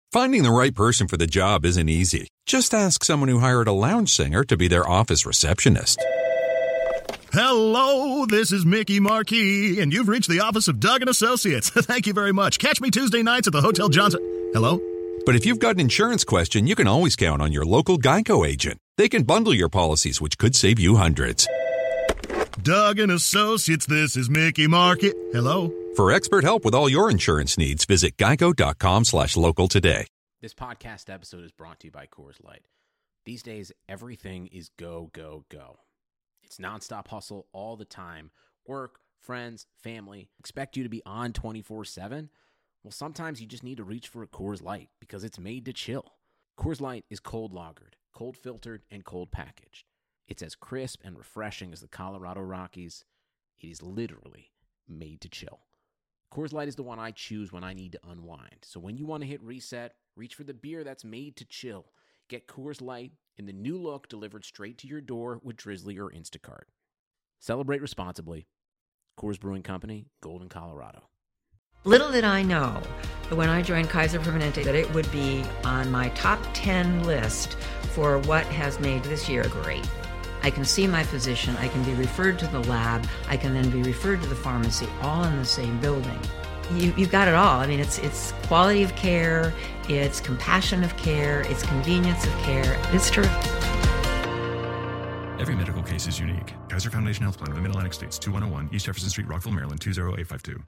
Finding the right person for the job isn't easy. Just ask someone who hired a lounge singer to be their office receptionist. Hello, this is Mickey Marquis, and you've reached the office of Doug & Associates. Thank you very much. Catch me Tuesday nights at the Hotel Johnson. Hello? But if you've got an insurance question, you can always count on your local Geico agent. They can bundle your policies, which could save you hundreds. Doug & Associates, this is Mickey Marquis. Hello? For expert help with all your insurance needs, visit geico.com/local today. This podcast episode is brought to you by Coors Light. These days, everything is go, go, go. It's nonstop hustle all the time. Work, friends, family, expect you to be on 24/7. Well, sometimes you just need to reach for a Coors Light because it's made to chill. Coors Light is cold lagered, cold filtered, and cold packaged. It's as crisp and refreshing as the Colorado Rockies. It is literally made to chill. Coors Light is the one I choose when I need to unwind. So when you want to hit reset, reach for the beer that's made to chill. Get Coors Light in the new look delivered straight to your door with Drizzly or Instacart. Celebrate responsibly. Coors Brewing Company, Golden, Colorado. Little did I know that when I joined Kaiser Permanente that it would be on my top 10 list for what has made this year great. I can see my physician, I can be referred to the lab, I can then be referred to the pharmacy, all in the same building. You've got it all. I mean, it's quality of care, it's compassion of care, it's convenience of care. It's terrific. Every medical case is unique. Kaiser Foundation Health Plan of the Mid-Atlantic States, 2101 East Jefferson Street, Rockville, Maryland, 20852.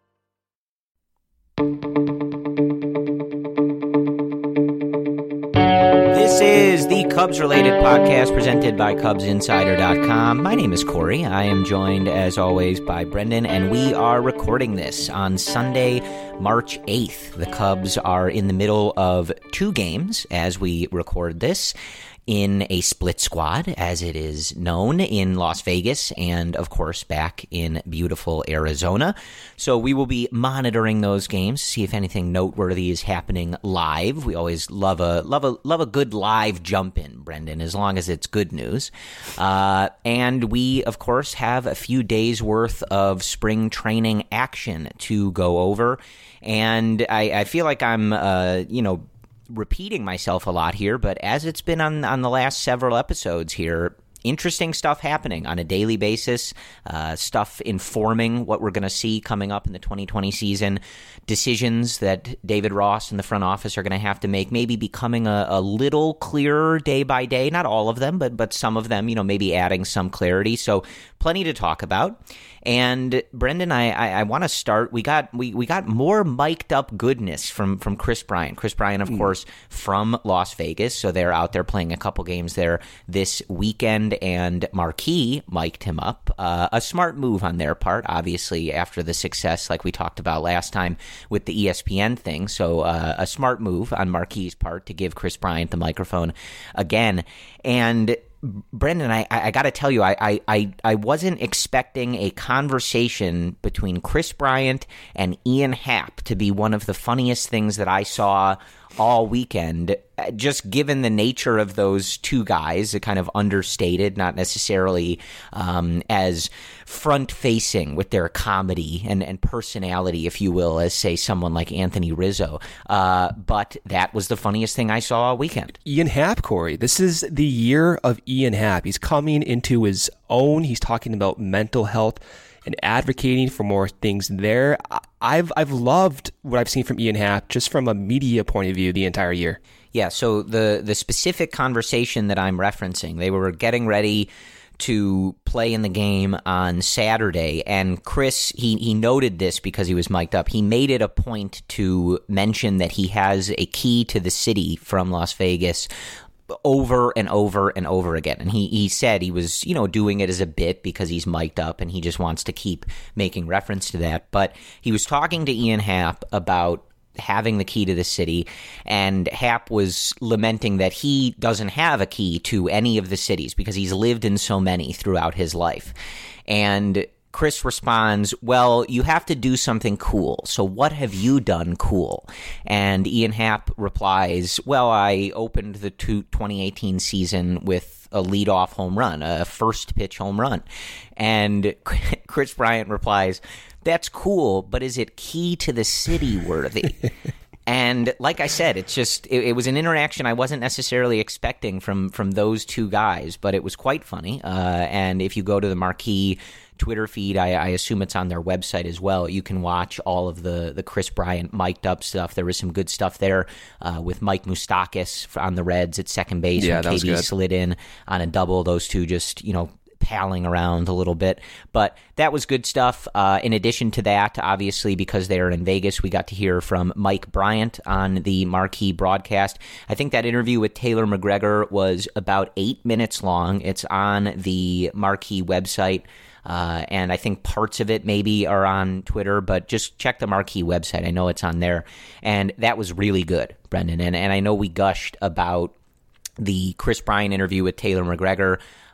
This is the Cubs-related podcast presented by CubsInsider.com. My name is Corey. I am joined, as always, by Brendan, and we are recording this on Sunday, March 8th. The Cubs are in the middle of two games as we record this, in a split squad, as it is known, in Las Vegas and, of course, back in beautiful Arizona. So we will be monitoring those games, see if anything noteworthy is happening live. We always love a good live jump in, Brendan, as long as it's good news. And we, of course, have a few days worth of spring training action to go over. And I feel like I'm, repeating myself a lot here, but as it's been on the last several episodes here, interesting stuff happening on a daily basis, stuff informing what we're going to see coming up in the 2020 season, decisions that David Ross and the front office are going to have to make, maybe becoming a little clearer day by day, not all of them, but some of them, maybe adding some clarity. So plenty to talk about. And Brendan, I want to start. We got more mic'd up goodness from Kris Bryant. Kris Bryant, of course, from Las Vegas, so they're out there playing a couple games there this weekend. And Marquis mic'd him up. A smart move on their part, obviously, after the success, like we talked about last time with the ESPN thing. So a smart move on Marquis' part to give Kris Bryant the microphone again. And Brendan, I got to tell you, I wasn't expecting a conversation between Kris Bryant and Ian Happ to be one of the funniest things that I saw all weekend, just given the nature of those two guys, kind of understated, not necessarily as front-facing with their comedy and personality, if you will, as, say, someone like Anthony Rizzo. But that was the funniest thing I saw all weekend. Ian Happ, Corey. This is the year of Ian Happ. He's coming into his own. He's talking about mental health and advocating for more things there. I've loved what I've seen from Ian Happ just from a media point of view the entire year. Yeah, so the specific conversation that I'm referencing, they were getting ready to play in the game on Saturday, and Kris, he noted this because he was mic'd up. He made it a point to mention that he has a key to the city from Las Vegas over and over and over again. And he said he was, doing it as a bit because he's mic'd up and he just wants to keep making reference to that. But he was talking to Ian Happ about having the key to the city, and Happ was lamenting that he doesn't have a key to any of the cities because he's lived in so many throughout his life. And Kris responds, well, you have to do something cool. So what have you done cool? And Ian Happ replies, well, I opened the 2018 season with a leadoff home run, a first pitch home run. And Kris Bryant replies, that's cool, but is it key to the city worthy? And like I said, it's just it was an interaction I wasn't necessarily expecting from those two guys, but it was quite funny. And if you go to the Marquee Twitter feed, I assume it's on their website as well, you can watch all of the Kris Bryant mic'd up stuff. There was some good stuff there with Mike Moustakas on the Reds at second base. Yeah, when that was KB good. slid in on a double. Those two just, palling around a little bit, but that was good stuff. In addition to that, obviously, because they are in Vegas, we got to hear from Mike Bryant on the Marquee broadcast. I think that interview with Taylor McGregor was about 8 minutes long. It's on the Marquee website. And I think parts of it maybe are on Twitter, but just check the Marquee website. I know it's on there. And that was really good, Brendan. And I know we gushed about the Kris Bryant interview with Taylor McGregor,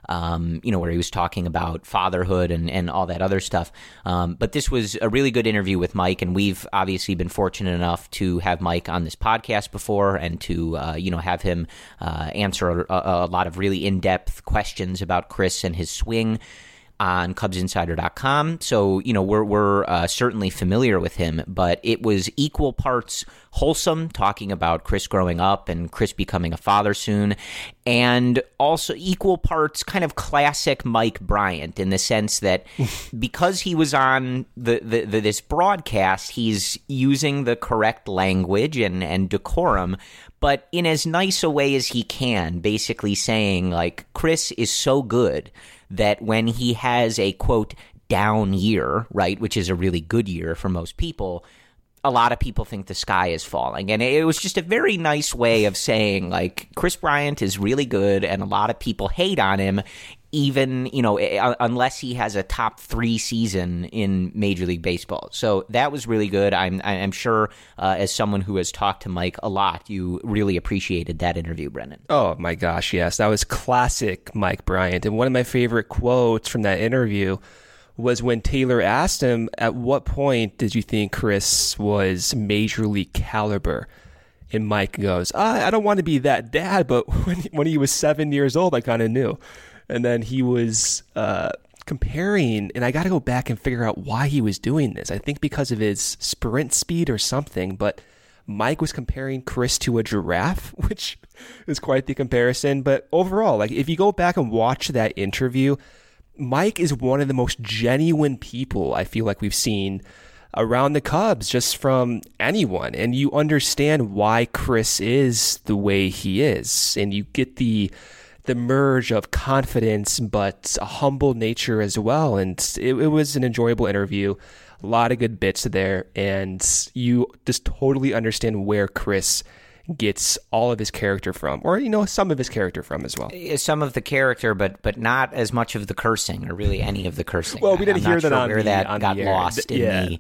where he was talking about fatherhood and all that other stuff. But this was a really good interview with Mike, and we've obviously been fortunate enough to have Mike on this podcast before and to, have him answer a lot of really in-depth questions about Kris and his swing on CubsInsider.com. So, we're certainly familiar with him, but it was equal parts wholesome, talking about Kris growing up and Kris becoming a father soon, and also equal parts kind of classic Mike Bryant in the sense that because he was on this broadcast, he's using the correct language and decorum, but in as nice a way as he can, basically saying, like, Kris is so good that when he has a, quote, down year, right, which is a really good year for most people, a lot of people think the sky is falling. And it was just a very nice way of saying, like, Kris Bryant is really good and a lot of people hate on him, even, unless he has a top 3 season in Major League Baseball. So that was really good. I'm sure as someone who has talked to Mike a lot, you really appreciated that interview, Brendan. Oh my gosh, yes. That was classic Mike Bryant. And one of my favorite quotes from that interview was when Taylor asked him, at what point did you think Kris was Major League caliber? And Mike goes, I don't want to be that dad, but when he was 7 years old, I kind of knew. And then he was comparing, and I got to go back and figure out why he was doing this. I think because of his sprint speed or something, but Mike was comparing Kris to a giraffe, which is quite the comparison. But overall, like, if you go back and watch that interview, Mike is one of the most genuine people I feel like we've seen around the Cubs, just from anyone. And you understand why Kris is the way he is. And you get the merge of confidence, but a humble nature as well. And it was an enjoyable interview. A lot of good bits there. And you just totally understand where Kris gets all of his character from, or some of his character from as well. Some of the character, but not as much of the cursing, or really any of the cursing. Well, we didn't hear that on where that on got the air. lost in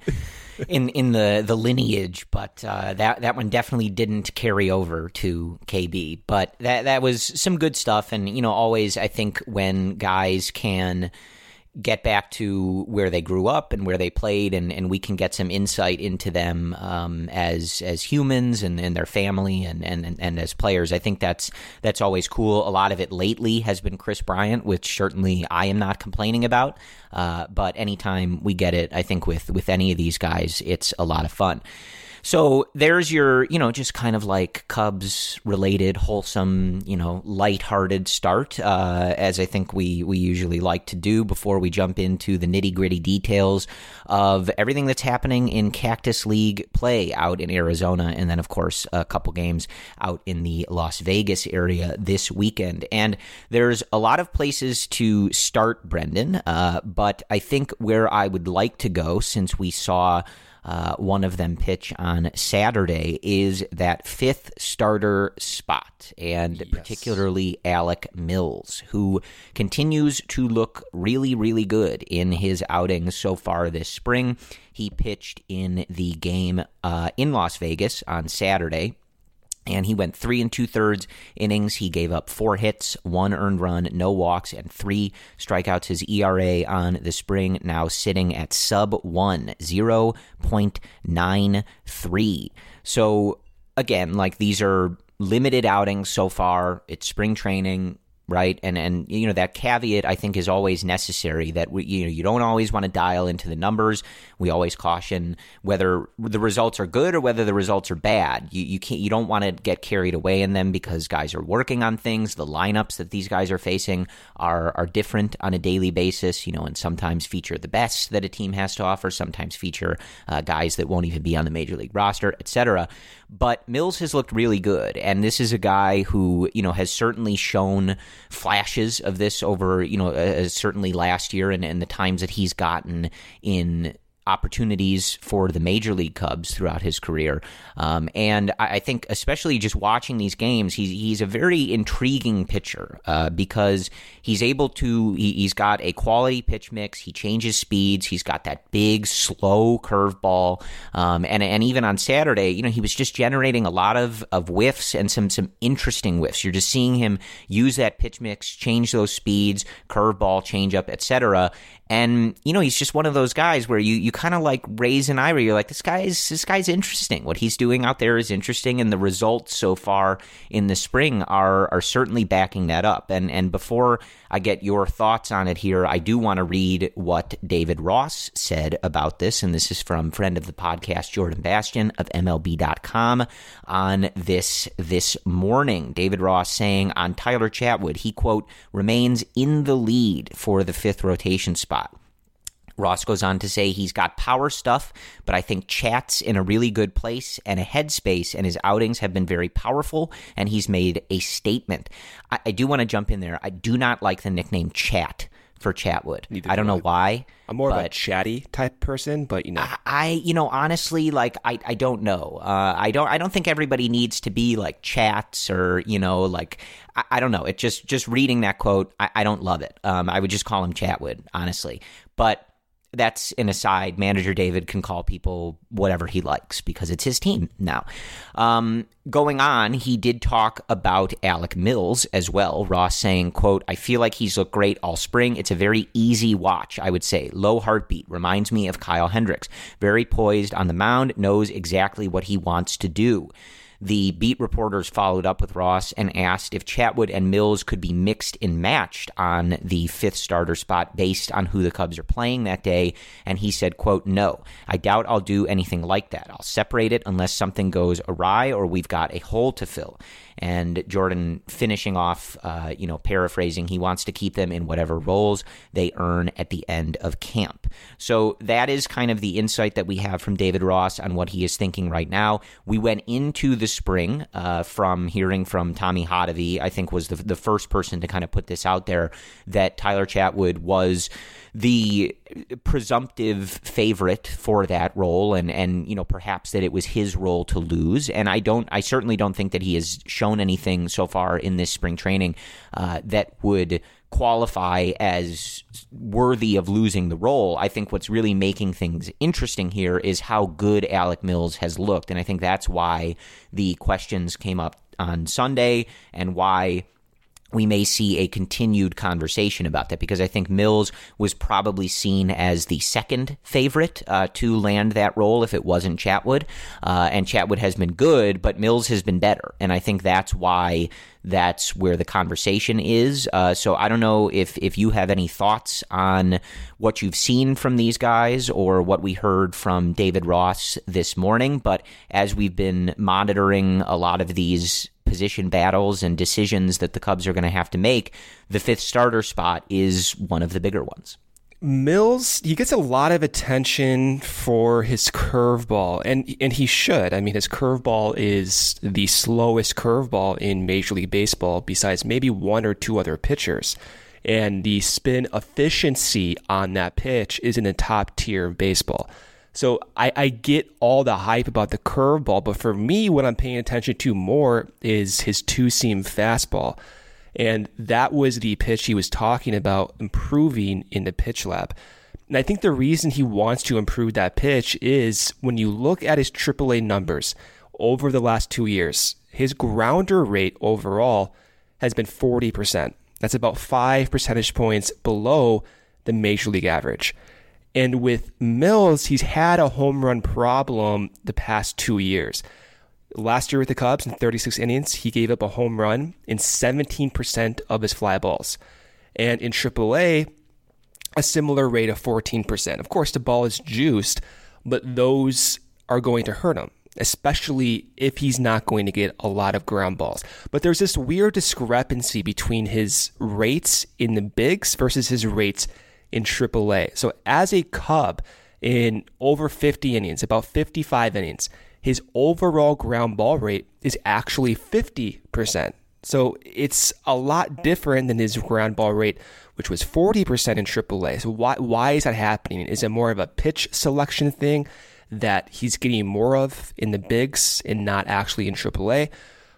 the lineage, but that one definitely didn't carry over to KB. But that was some good stuff, and always I think when guys can get back to where they grew up and where they played, and we can get some insight into them as humans and their family and as players. I think that's always cool. A lot of it lately has been Kris Bryant, which certainly I am not complaining about. But anytime we get it, I think with any of these guys, it's a lot of fun. So there's your, just kind of like Cubs-related, wholesome, lighthearted start, as I think we usually like to do before we jump into the nitty-gritty details of everything that's happening in Cactus League play out in Arizona, and then, of course, a couple games out in the Las Vegas area this weekend. And there's a lot of places to start, Brendan, but I think where I would like to go, since we saw one of them pitch on Saturday, is that 5th starter spot, and particularly Alec Mills, who continues to look really, really good in his outings so far this spring. He pitched in the game in Las Vegas on Saturday, and he went 3 2/3 innings. He gave up 4 hits, 1 earned run, no walks, and 3 strikeouts. His ERA on the spring now sitting at sub-1, 0.93. So, again, like, these are limited outings so far. It's spring training. right? And you know, that caveat I think is always necessary, that you don't always want to dial into the numbers. We always caution whether the results are good or whether the results are bad. You don't want to get carried away in them because guys are working on things. The lineups that these guys are facing are different on a daily basis, you know, and sometimes feature the best that a team has to offer, sometimes feature guys that won't even be on the major league roster, etc. But Mills has looked really good, and this is a guy who, you know, has certainly shown flashes of this over, you know, certainly last year and the times that he's gotten in opportunities for the Major League Cubs throughout his career. And I think especially just watching these games, he's a very intriguing pitcher because he's able to, he's got a quality pitch mix, he changes speeds, he's got that big, slow curveball, and even on Saturday, you know, he was just generating a lot of whiffs and some interesting whiffs. You're just seeing him use that pitch mix, change those speeds, curveball, changeup, etc. And, you know, he's just one of those guys where you kind of like raise an eyebrow. You're like, this guy's interesting. What he's doing out there is interesting, and the results so far in the spring are certainly backing that up. And before I get your thoughts on it here, I do want to read what David Ross said about this, and this is from friend of the podcast, Jordan Bastian of MLB.com on this morning. David Ross saying on Tyler Chatwood, he, quote, remains in the lead for the fifth rotation spot. Ross goes on to say he's got power stuff, but I think Chat's in a really good place and a headspace, and his outings have been very powerful, and he's made a statement. I do want to jump in there. I do not like the nickname Chat for Chatwood. I don't know why. I'm more of a chatty type person, but you know, honestly, like I don't know. I don't think everybody needs to be like Chats or, you know, like I don't know. It just reading that quote, I don't love it. I would just call him Chatwood, honestly. But that's an aside. Manager David can call people whatever he likes because it's his team now. Going on, he did talk about Alec Mills as well. Ross saying, quote, I feel like he's looked great all spring. It's a very easy watch, I would say. Low heartbeat. Reminds me of Kyle Hendricks. Very poised on the mound. Knows exactly what he wants to do. The beat reporters followed up with Ross and asked if Chatwood and Mills could be mixed and matched on the fifth starter spot based on who the Cubs are playing that day, and he said, quote, no, I doubt I'll do anything like that. I'll separate it unless something goes awry or we've got a hole to fill. And Jordan finishing off, paraphrasing, he wants to keep them in whatever roles they earn at the end of camp. So that is kind of the insight that we have from David Ross on what he is thinking right now. We went into the spring from hearing from Tommy Hotovy, I think was the first person to kind of put this out there, that Tyler Chatwood was the presumptive favorite for that role, and you know, perhaps that it was his role to lose. And I certainly don't think that he has shown anything so far in this spring training that would qualify as worthy of losing the role. I think what's really making things interesting here is how good Alec Mills has looked, and I think that's why the questions came up on Sunday and why we may see a continued conversation about that, because I think Mills was probably seen as the second favorite to land that role if it wasn't Chatwood. And Chatwood has been good, but Mills has been better. And I think that's why that's where the conversation is. So I don't know if you have any thoughts on what you've seen from these guys or what we heard from David Ross this morning. But as we've been monitoring a lot of these position battles and decisions that the Cubs are going to have to make, the fifth starter spot is one of the bigger ones. Mills, he gets a lot of attention for his curveball, and he should. I mean, his curveball is the slowest curveball in Major League Baseball besides maybe one or two other pitchers. And the spin efficiency on that pitch is in the top tier of baseball. So I get all the hype about the curveball, but for me, what I'm paying attention to more is his two-seam fastball. And that was the pitch he was talking about improving in the pitch lab. And I think the reason he wants to improve that pitch is when you look at his AAA numbers over the last 2 years, his grounder rate overall has been 40%. That's about 5 percentage points below the Major League average. And with Mills, he's had a home run problem the past 2 years. Last year with the Cubs in 36 innings, he gave up a home run in 17% of his fly balls. And in AAA, a similar rate of 14%. Of course, the ball is juiced, but those are going to hurt him, especially if he's not going to get a lot of ground balls. But there's this weird discrepancy between his rates in the bigs versus his rates in AAA. So as a Cub in over 50 innings, about 55 innings, his overall ground ball rate is actually 50%. So it's a lot different than his ground ball rate, which was 40% in AAA. So why is that happening? Is it more of a pitch selection thing that he's getting more of in the bigs and not actually in AAA?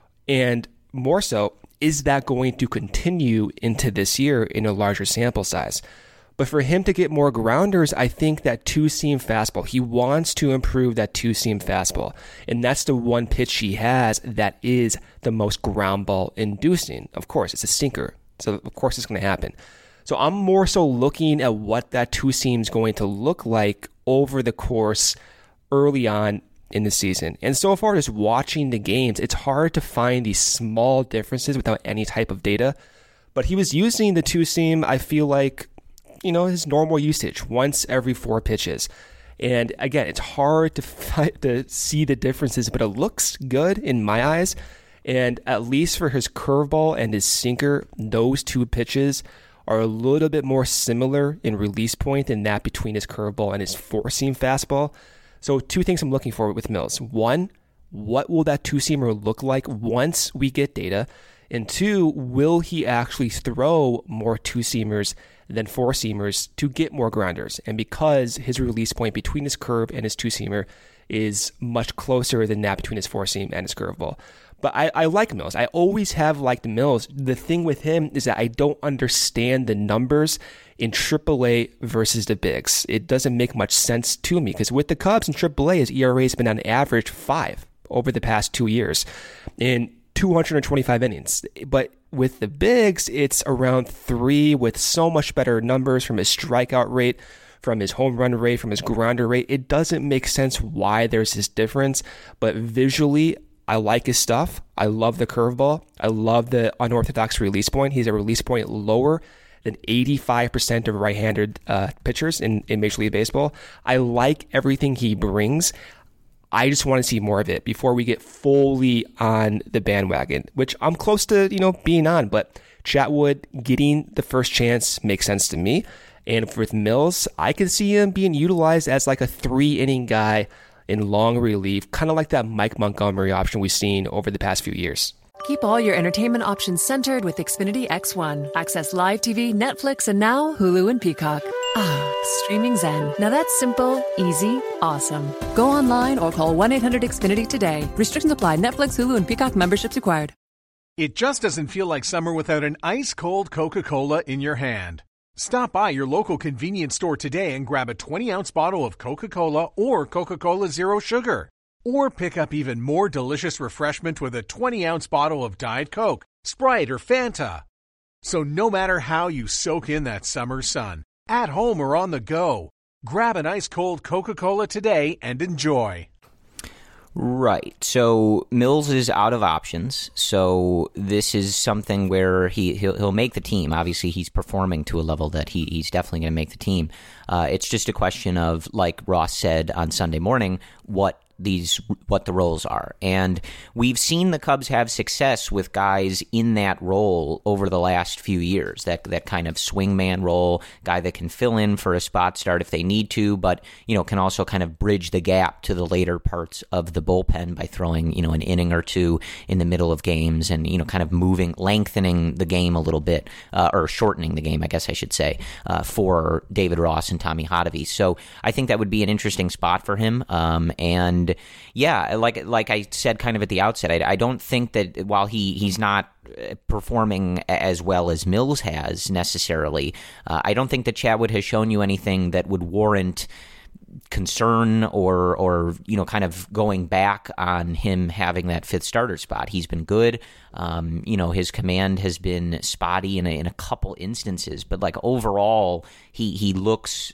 And more so, is that going to continue into this year in a larger sample size? But for him to get more grounders, I think that two-seam fastball, he wants to improve that two-seam fastball. And that's the one pitch he has that is the most ground ball inducing. Of course, it's a sinker. So of course it's going to happen. So I'm more so looking at what that two-seam is going to look like over the course early on in the season. And so far, just watching the games, it's hard to find these small differences without any type of data. But he was using the two-seam, I feel like, his normal usage, once every 4 pitches. And again, it's hard to see the differences, but it looks good in my eyes. And at least for his curveball and his sinker, those 2 pitches are a little bit more similar in release point than that between his curveball and his 4-seam fastball. So 2 things I'm looking for with Mills. 1, what will that 2-seamer look like once we get data? And 2, will he actually throw more 2-seamers than 4-seamers to get more grounders? And because his release point between his curve and his 2-seamer is much closer than that between his 4-seam and his curveball. But I like Mills. I always have liked Mills. The thing with him is that I don't understand the numbers in AAA versus the bigs. It doesn't make much sense to me because with the Cubs in AAA, his ERA has been on average 5 over the past 2 years in 225 innings. But with the bigs, it's around 3 with so much better numbers from his strikeout rate, from his home run rate, from his grounder rate. It doesn't make sense why there's this difference, but visually, I like his stuff. I love the curveball. I love the unorthodox release point. He's a release point lower than 85% of right-handed pitchers in Major League Baseball. I like everything he brings. I just want to see more of it before we get fully on the bandwagon, which I'm close to, being on. But Chatwood getting the first chance makes sense to me. And with Mills, I could see him being utilized as like a 3-inning guy in long relief, kind of like that Mike Montgomery option we've seen over the past few years. Keep all your entertainment options centered with Xfinity X1. Access live TV, Netflix, and now Hulu and Peacock. Streaming Zen. Now that's simple, easy, awesome. Go online or call 1-800-XFINITY today. Restrictions apply. Netflix, Hulu, and Peacock memberships required. It just doesn't feel like summer without an ice-cold Coca-Cola in your hand. Stop by your local convenience store today and grab a 20-ounce bottle of Coca-Cola or Coca-Cola Zero Sugar. Or pick up even more delicious refreshment with a 20-ounce bottle of Diet Coke, Sprite, or Fanta. So no matter how you soak in that summer sun, at home or on the go, grab an ice-cold Coca-Cola today and enjoy. Right. So Mills is out of options. So this is something where he'll make the team. Obviously, he's performing to a level that he's definitely going to make the team. It's just a question of, like Ross said on Sunday morning, what the roles are. And we've seen the Cubs have success with guys in that role over the last few years. That kind of swingman role, guy that can fill in for a spot start if they need to, but can also kind of bridge the gap to the later parts of the bullpen by throwing an inning or two in the middle of games and kind of lengthening the game a little bit, or shortening the game, I guess I should say, for David Ross and Tommy Hotovy. So I think that would be an interesting spot for him. And yeah, like I said kind of at the outset, I don't think that while he's not performing as well as Mills has necessarily, I don't think that Chatwood has shown you anything that would warrant concern or kind of going back on him having that 5th starter spot. He's been good. His command has been spotty in a couple instances, but like overall, he looks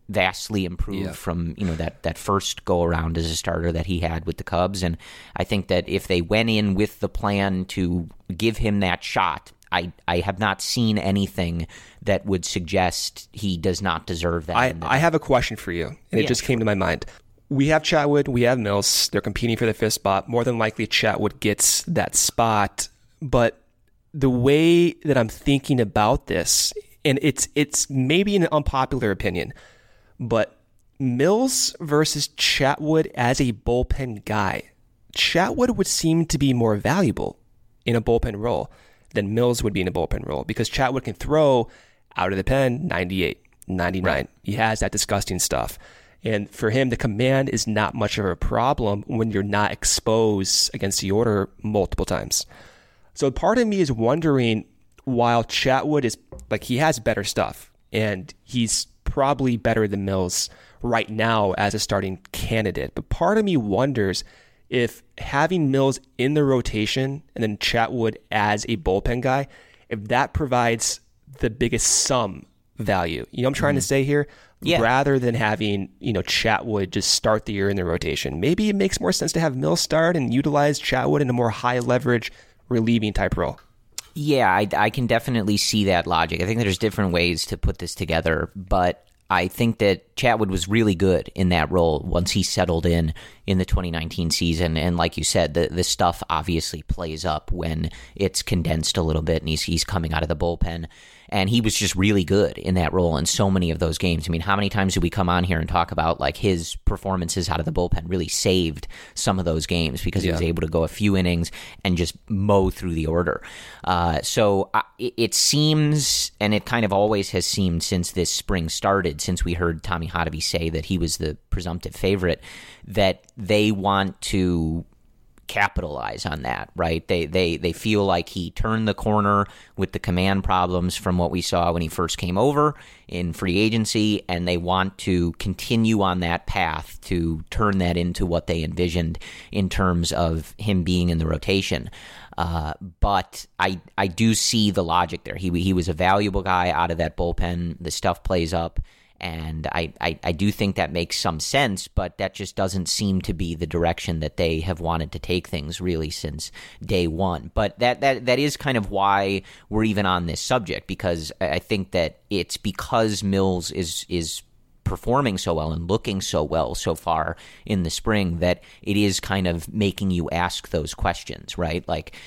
vastly improved from that first go around as a starter that he had with the Cubs. And I think that if they went in with the plan to give him that shot, I have not seen anything that would suggest he does not deserve that. I have a question for you, and it just came to my mind. We have Chatwood, we have Mills. They're competing for the 5th spot. More than likely, Chatwood gets that spot. But the way that I'm thinking about this, and it's maybe an unpopular opinion, but Mills versus Chatwood as a bullpen guy, Chatwood would seem to be more valuable in a bullpen role than Mills would be in a bullpen role, because Chatwood can throw out of the pen 98, 99. Right. He has that disgusting stuff. And for him, the command is not much of a problem when you're not exposed against the order multiple times. So part of me is wondering, while Chatwood is he has better stuff, and he's probably better than Mills right now as a starting candidate, but part of me wonders if having Mills in the rotation and then Chatwood as a bullpen guy, if that provides the biggest sum value. You know what I'm trying to say here? Yeah. Rather than having, Chatwood just start the year in the rotation. Maybe it makes more sense to have Mills start and utilize Chatwood in a more high leverage relieving type role. Yeah, I can definitely see that logic. I think there's different ways to put this together, but I think that Chatwood was really good in that role once he settled in the 2019 season. And like you said, the stuff obviously plays up when it's condensed a little bit and he's coming out of the bullpen. And he was just really good in that role in so many of those games. I mean, how many times did we come on here and talk about his performances out of the bullpen really saved some of those games because he was able to go a few innings and just mow through the order. So it seems, and it kind of always has seemed since this spring started, since we heard Tommy Hotovy say that he was the presumptive favorite, that they want to capitalize on that, right? They feel like he turned the corner with the command problems from what we saw when he first came over in free agency, and they want to continue on that path to turn that into what they envisioned in terms of him being in the rotation. But I do see the logic there. He was a valuable guy out of that bullpen. The stuff plays up. And I do think that makes some sense, but that just doesn't seem to be the direction that they have wanted to take things really since day one. But that is kind of why we're even on this subject, because I think that it's because Mills is performing so well and looking so well so far in the spring that it is kind of making you ask those questions, right?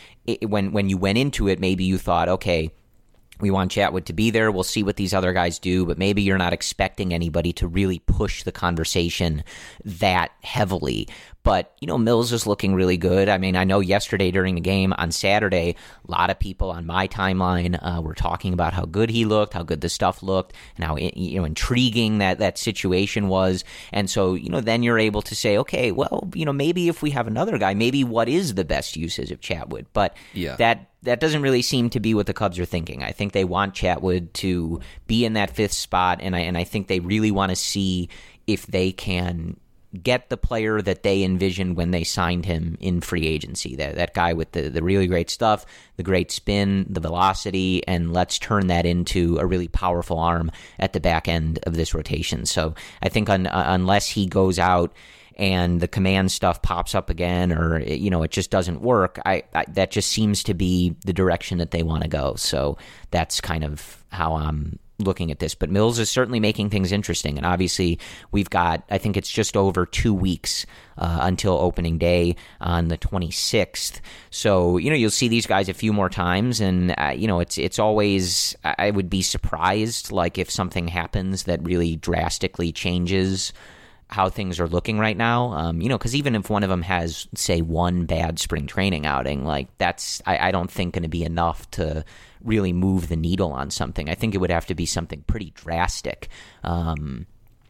When you went into it, maybe you thought, okay, we want Chatwood to be there. We'll see what these other guys do, but maybe you're not expecting anybody to really push the conversation that heavily. But, Mills is looking really good. I mean, I know yesterday during the game on Saturday, a lot of people on my timeline were talking about how good he looked, how good the stuff looked, and how intriguing that situation was. And so, then you're able to say, okay, well, maybe if we have another guy, maybe what is the best usage of Chatwood? But that doesn't really seem to be what the Cubs are thinking. I think they want Chatwood to be in that 5th spot, and I think they really want to see if they can get the player that they envisioned when they signed him in free agency, that guy with the really great stuff, the great spin, the velocity, and let's turn that into a really powerful arm at the back end of this rotation. So I think unless he goes out and the command stuff pops up again, or it just doesn't work, that just seems to be the direction that they want to go. So that's kind of how I'm looking at this. But Mills is certainly making things interesting, and obviously we've got, I think it's just over 2 weeks until opening day on the 26th. So you'll see these guys a few more times, and it's always, I would be surprised if something happens that really drastically changes how things are looking right now, because even if one of them has, say, one bad spring training outing, that's, I don't think going to be enough to really move the needle on something. I think it would have to be something pretty drastic, and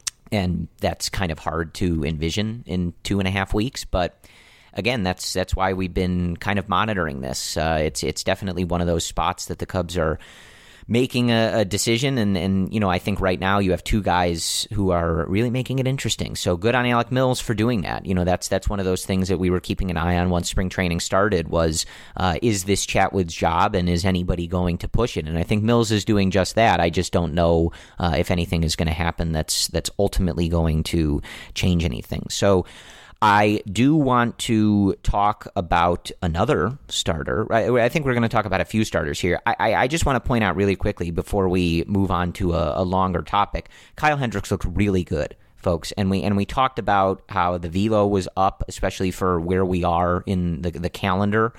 that's kind of hard to envision in 2.5 weeks. But again, that's why we've been kind of monitoring this. It's definitely one of those spots that the Cubs are making a decision. And, you know, I think right now you have two guys who are really making it interesting. So good on Alec Mills for doing that. You know, that's one of those things that we were keeping an eye on once spring training started was, is this Chatwood's job and is anybody going to push it? And I think Mills is doing just that. I just don't know if anything is going to happen that's ultimately going to change anything. So I do want to talk about another starter. I think we're going to talk about a few starters here. I just want to point out really quickly before we move on to a longer topic. Kyle Hendricks looked really good, folks, and we talked about how the velo was up, especially for where we are in the calendar.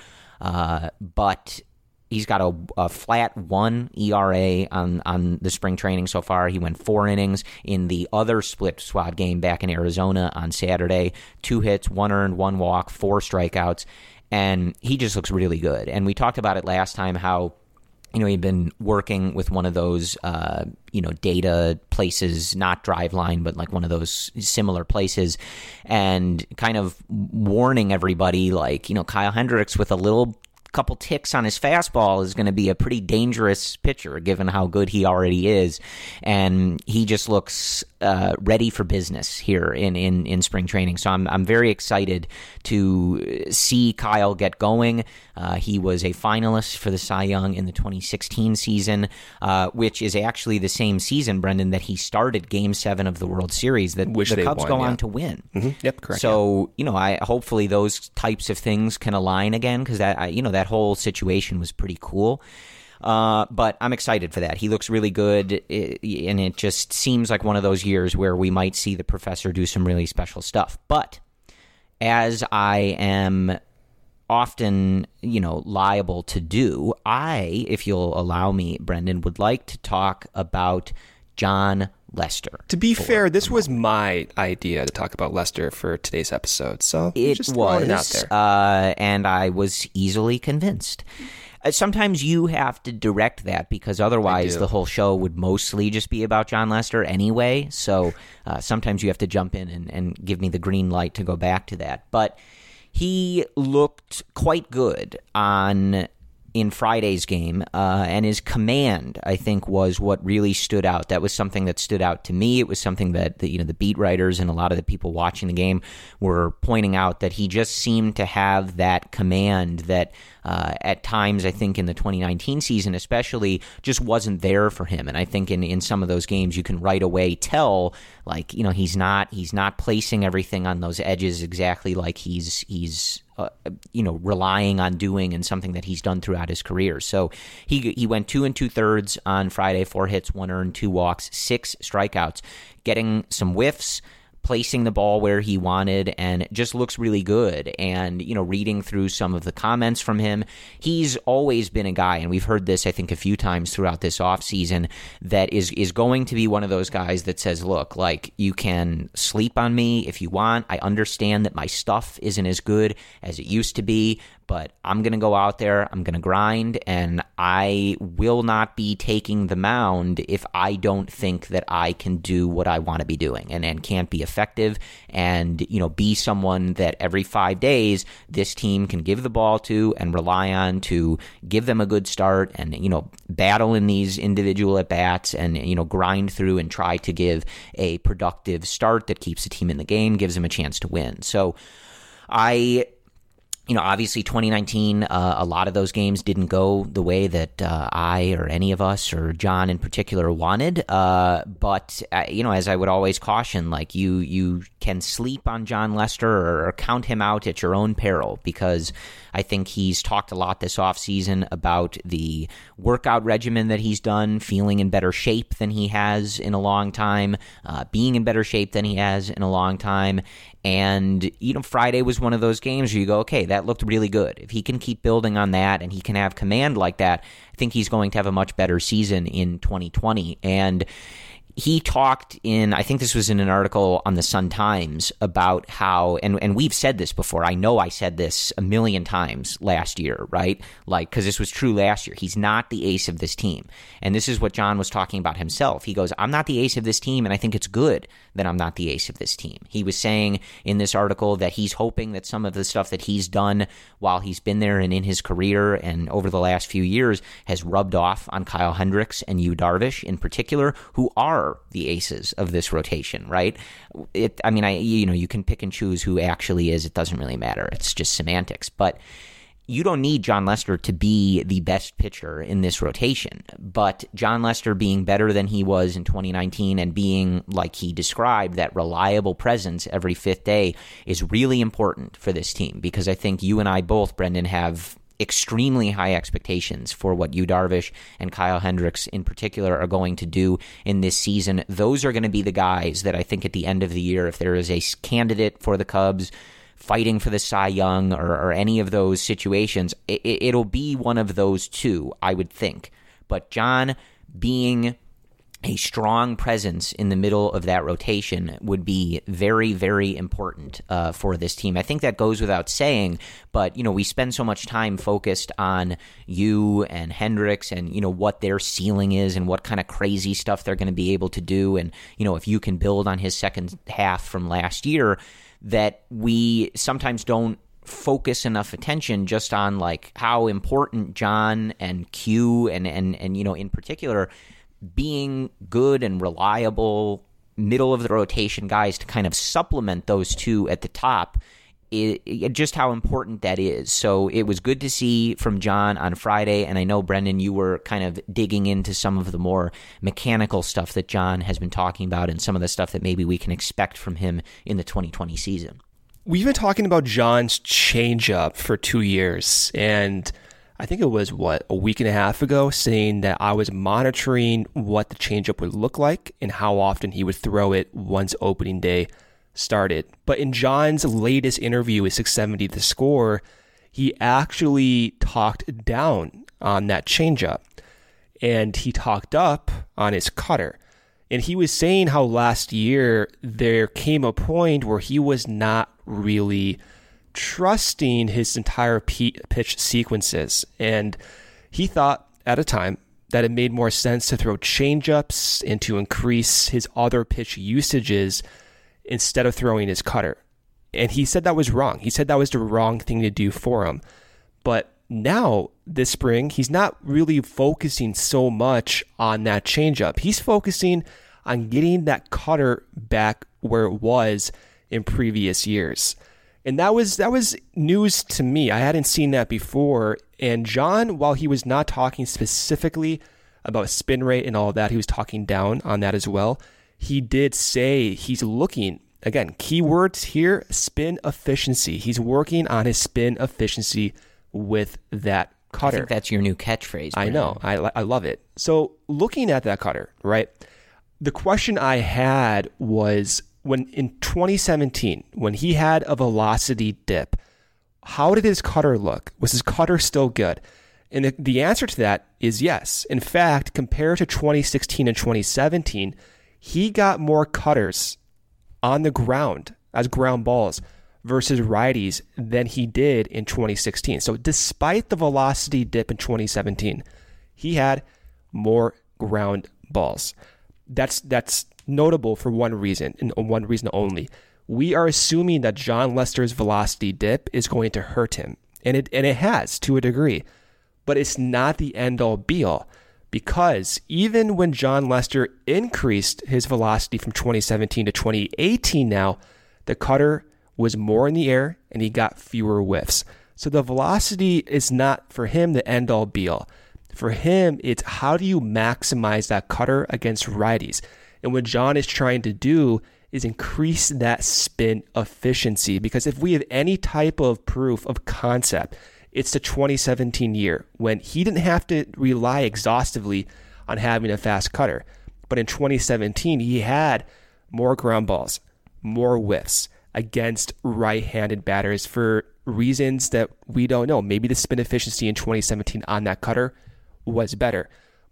But he's got a flat 1 ERA on the spring training so far. He went 4 innings in the other split squad game back in Arizona on Saturday. 2 hits, 1 earned, 1 walk, 4 strikeouts, and he just looks really good. And we talked about it last time how, you know, he'd been working with one of those, data places, not Driveline, but like one of those similar places, and kind of warning everybody, like, you know, Kyle Hendricks with a couple ticks on his fastball is going to be a pretty dangerous pitcher given how good he already is, and he just looks ready for business here in spring training. So I'm very excited to see Kyle get going. He was a finalist for the Cy Young in the 2016 season, which is actually the same season, Brendan, that he started Game 7 of the World Series that the Cubs go on to win. Mm-hmm. Yep, correct. So, you know, hopefully those types of things can align again, because that whole situation was pretty cool. But I'm excited for that. He looks really good, and it just seems like one of those years where we might see the professor do some really special stuff. But as I am often, you know, liable to do, if you'll allow me, Brendan, would like to talk about Jon Lester. To be fair, this was my idea to talk about Lester for today's episode, so it just was it out there. And I was easily convinced. Sometimes you have to direct that, because otherwise the whole show would mostly just be about Jon Lester anyway. So sometimes you have to jump in and give me the green light to go back to that. But he looked quite good in Friday's game, and his command, I think, was what really stood out. That was something that stood out to me. It was something that the beat writers and a lot of the people watching the game were pointing out, that he just seemed to have that command that at times, I think in the 2019 season especially, just wasn't there for him. And I think in some of those games you can right away tell, like, you know, he's not placing everything on those edges exactly like he's relying on doing, and something that he's done throughout his career. So he went 2 2/3 on Friday, 4 hits, 1 earned, 2 walks, 6 strikeouts, getting some whiffs, placing the ball where he wanted, and just looks really good. And, you know, reading through some of the comments from him, he's always been a guy, and we've heard this, I think, a few times throughout this offseason, that is going to be one of those guys that says, look, like, you can sleep on me if you want. I understand that my stuff isn't as good as it used to be, but I'm going to go out there, I'm going to grind, and I will not be taking the mound if I don't think that I can do what I want to be doing and can't be effective, and, you know, be someone that every 5 days this team can give the ball to and rely on to give them a good start, and, you know, battle in these individual at-bats, and, you know, grind through and try to give a productive start that keeps the team in the game, gives them a chance to win. So obviously 2019, a lot of those games didn't go the way that I or any of us or John in particular wanted. But as I would always caution, like, you can sleep on Jon Lester or count him out at your own peril, because I think he's talked a lot this offseason about the workout regimen that he's done, feeling in better shape than he has in a long time, being in better shape than he has in a long time. And, Friday was one of those games where you go, okay, that looked really good. If he can keep building on that and he can have command like that, I think he's going to have a much better season in 2020. And he talked I think this was in an article on the Sun-Times, about how, and we've said this before, I know I said this a million times last year, right? Like, because this was true last year. He's not the ace of this team. And this is what John was talking about himself. He goes, I'm not the ace of this team, and I think it's good that I'm not the ace of this team. He was saying in this article that he's hoping that some of the stuff that he's done while he's been there and in his career and over the last few years has rubbed off on Kyle Hendricks and Yu Darvish in particular, who are the aces of this rotation, right? You can pick and choose who actually is. It doesn't really matter. It's just semantics. But you don't need Jon Lester to be the best pitcher in this rotation. But Jon Lester being better than he was in 2019 and being, like he described, that reliable presence every fifth day is really important for this team, because I think you and I both, Brendan, have extremely high expectations for what Yu Darvish and Kyle Hendricks in particular are going to do in this season. Those are going to be the guys that I think at the end of the year, if there is a candidate for the Cubs fighting for the Cy Young or any of those situations, it'll be one of those two, I would think. But John being a strong presence in the middle of that rotation would be very, very important for this team. I think that goes without saying, but, we spend so much time focused on Yu and Hendricks and, what their ceiling is and what kind of crazy stuff they're going to be able to do. And, if you can build on his second half from last year, that we sometimes don't focus enough attention just on like how important John and Q and in particular being good and reliable middle of the rotation guys to kind of supplement those two at the top, just how important that is. So it was good to see from John on Friday, and I know, Brendan, you were kind of digging into some of the more mechanical stuff that John has been talking about and some of the stuff that maybe we can expect from him in the 2020 season. We've been talking about John's changeup for 2 years, and I think it was, a week and a half ago, saying that I was monitoring what the changeup would look like and how often he would throw it once opening day started. But in John's latest interview with 670 The Score, he actually talked down on that changeup, and he talked up on his cutter. And he was saying how last year there came a point where he was not really trusting his entire pitch sequences. And he thought at a time that it made more sense to throw changeups and to increase his other pitch usages instead of throwing his cutter. And he said that was wrong. He said that was the wrong thing to do for him. But now, this spring, he's not really focusing so much on that changeup. He's focusing on getting that cutter back where it was in previous years. And that was news to me. I hadn't seen that before. And John, while he was not talking specifically about spin rate and all of that, he was talking down on that as well. He did say he's looking, again, keywords here, spin efficiency. He's working on his spin efficiency with that cutter. I think that's your new catchphrase. I know. I love it. So looking at that cutter, right? The question I had was, when in 2017, when he had a velocity dip, how did his cutter look? Was his cutter still good? And the answer to that is yes. In fact, compared to 2016 and 2017, he got more cutters on the ground as ground balls versus righties than he did in 2016. So despite the velocity dip in 2017, he had more ground balls. That's notable for one reason, and one reason only. We are assuming that Jon Lester's velocity dip is going to hurt him, and it has to a degree, but it's not the end-all be-all, because even when Jon Lester increased his velocity from 2017 to 2018 now, the cutter was more in the air and he got fewer whiffs. So the velocity is not for him the end-all be-all. For him, it's how do you maximize that cutter against righties? And what John is trying to do is increase that spin efficiency, because if we have any type of proof of concept, it's the 2017 year when he didn't have to rely exhaustively on having a fast cutter. But in 2017, he had more ground balls, more whiffs against right-handed batters for reasons that we don't know. Maybe the spin efficiency in 2017 on that cutter was better.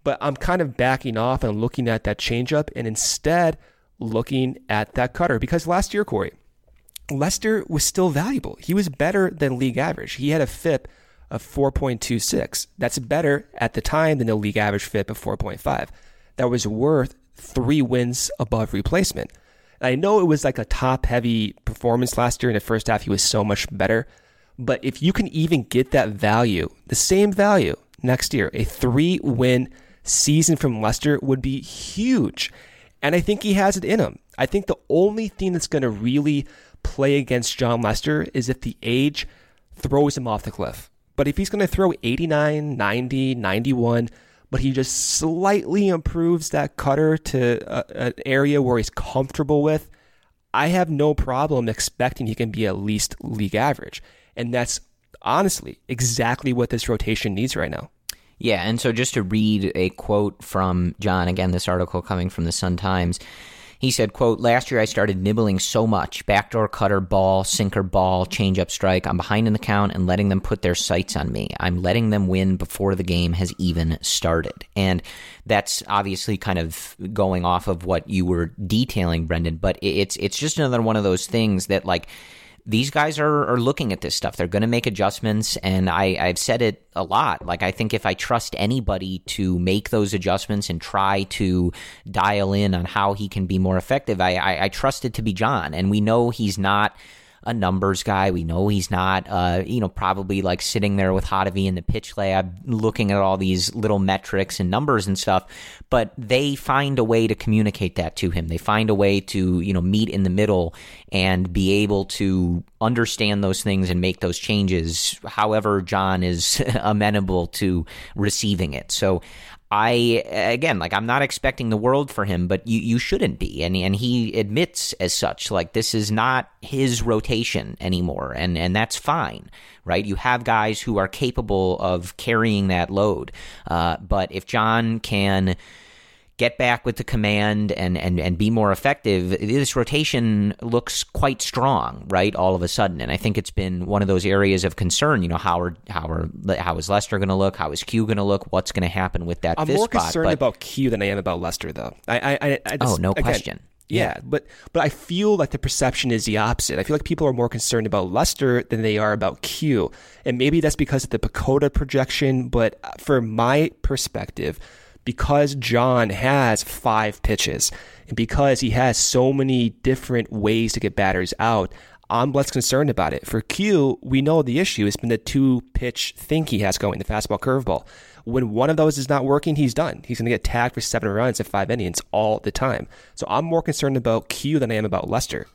But I'm kind of backing off and looking at that changeup and instead looking at that cutter. Because last year, Corey, Lester was still valuable. He was better than league average. He had a FIP of 4.26. That's better at the time than the league average FIP of 4.5. That was worth 3 wins above replacement. And I know it was like a top-heavy performance last year. In the first half, he was so much better. But if you can even get that value, the same value next year, a 3-win season from Lester would be huge. And I think he has it in him. I think the only thing that's going to really play against Jon Lester is if the age throws him off the cliff. But if he's going to throw 89, 90, 91, but he just slightly improves that cutter to an area where he's comfortable with, I have no problem expecting he can be at least league average. And that's honestly exactly what this rotation needs right now. Yeah, and so just to read a quote from Jon, again, this article coming from the Sun-Times, he said, quote, "Last year I started nibbling so much, backdoor cutter, ball, sinker, ball, changeup, strike. I'm behind in the count and letting them put their sights on me. I'm letting them win before the game has even started." And that's obviously kind of going off of what you were detailing, Brendan, but it's just another one of those things that, like, these guys are looking at this stuff. They're going to make adjustments, and I've said it a lot. Like, I think if I trust anybody to make those adjustments and try to dial in on how he can be more effective, I trust it to be Jon. And we know he's not a numbers guy. We know he's not, probably like sitting there with Hottovy in the pitch lab looking at all these little metrics and numbers and stuff, but they find a way to communicate that to him. They find a way to, meet in the middle and be able to understand those things and make those changes however Jon is amenable to receiving it. So I'm not expecting the world for him, but you shouldn't be. And he admits as such, like, this is not his rotation anymore. And that's fine, right? You have guys who are capable of carrying that load. But if Jon can get back with the command and be more effective, this rotation looks quite strong, right, all of a sudden. And I think it's been one of those areas of concern. How is Lester going to look? How is Q going to look? What's going to happen with that fifth spot? I'm more concerned about Q than I am about Lester, though. No question. Yeah, but I feel like the perception is the opposite. I feel like people are more concerned about Lester than they are about Q. And maybe that's because of the PECOTA projection, but from my perspective, because Jon has 5 pitches and because he has so many different ways to get batters out, I'm less concerned about it. For Q, we know the issue has been the 2-pitch thing he has going, the fastball curveball. When one of those is not working, he's done. He's going to get tagged for 7 runs at 5 innings all the time. So I'm more concerned about Q than I am about Lester.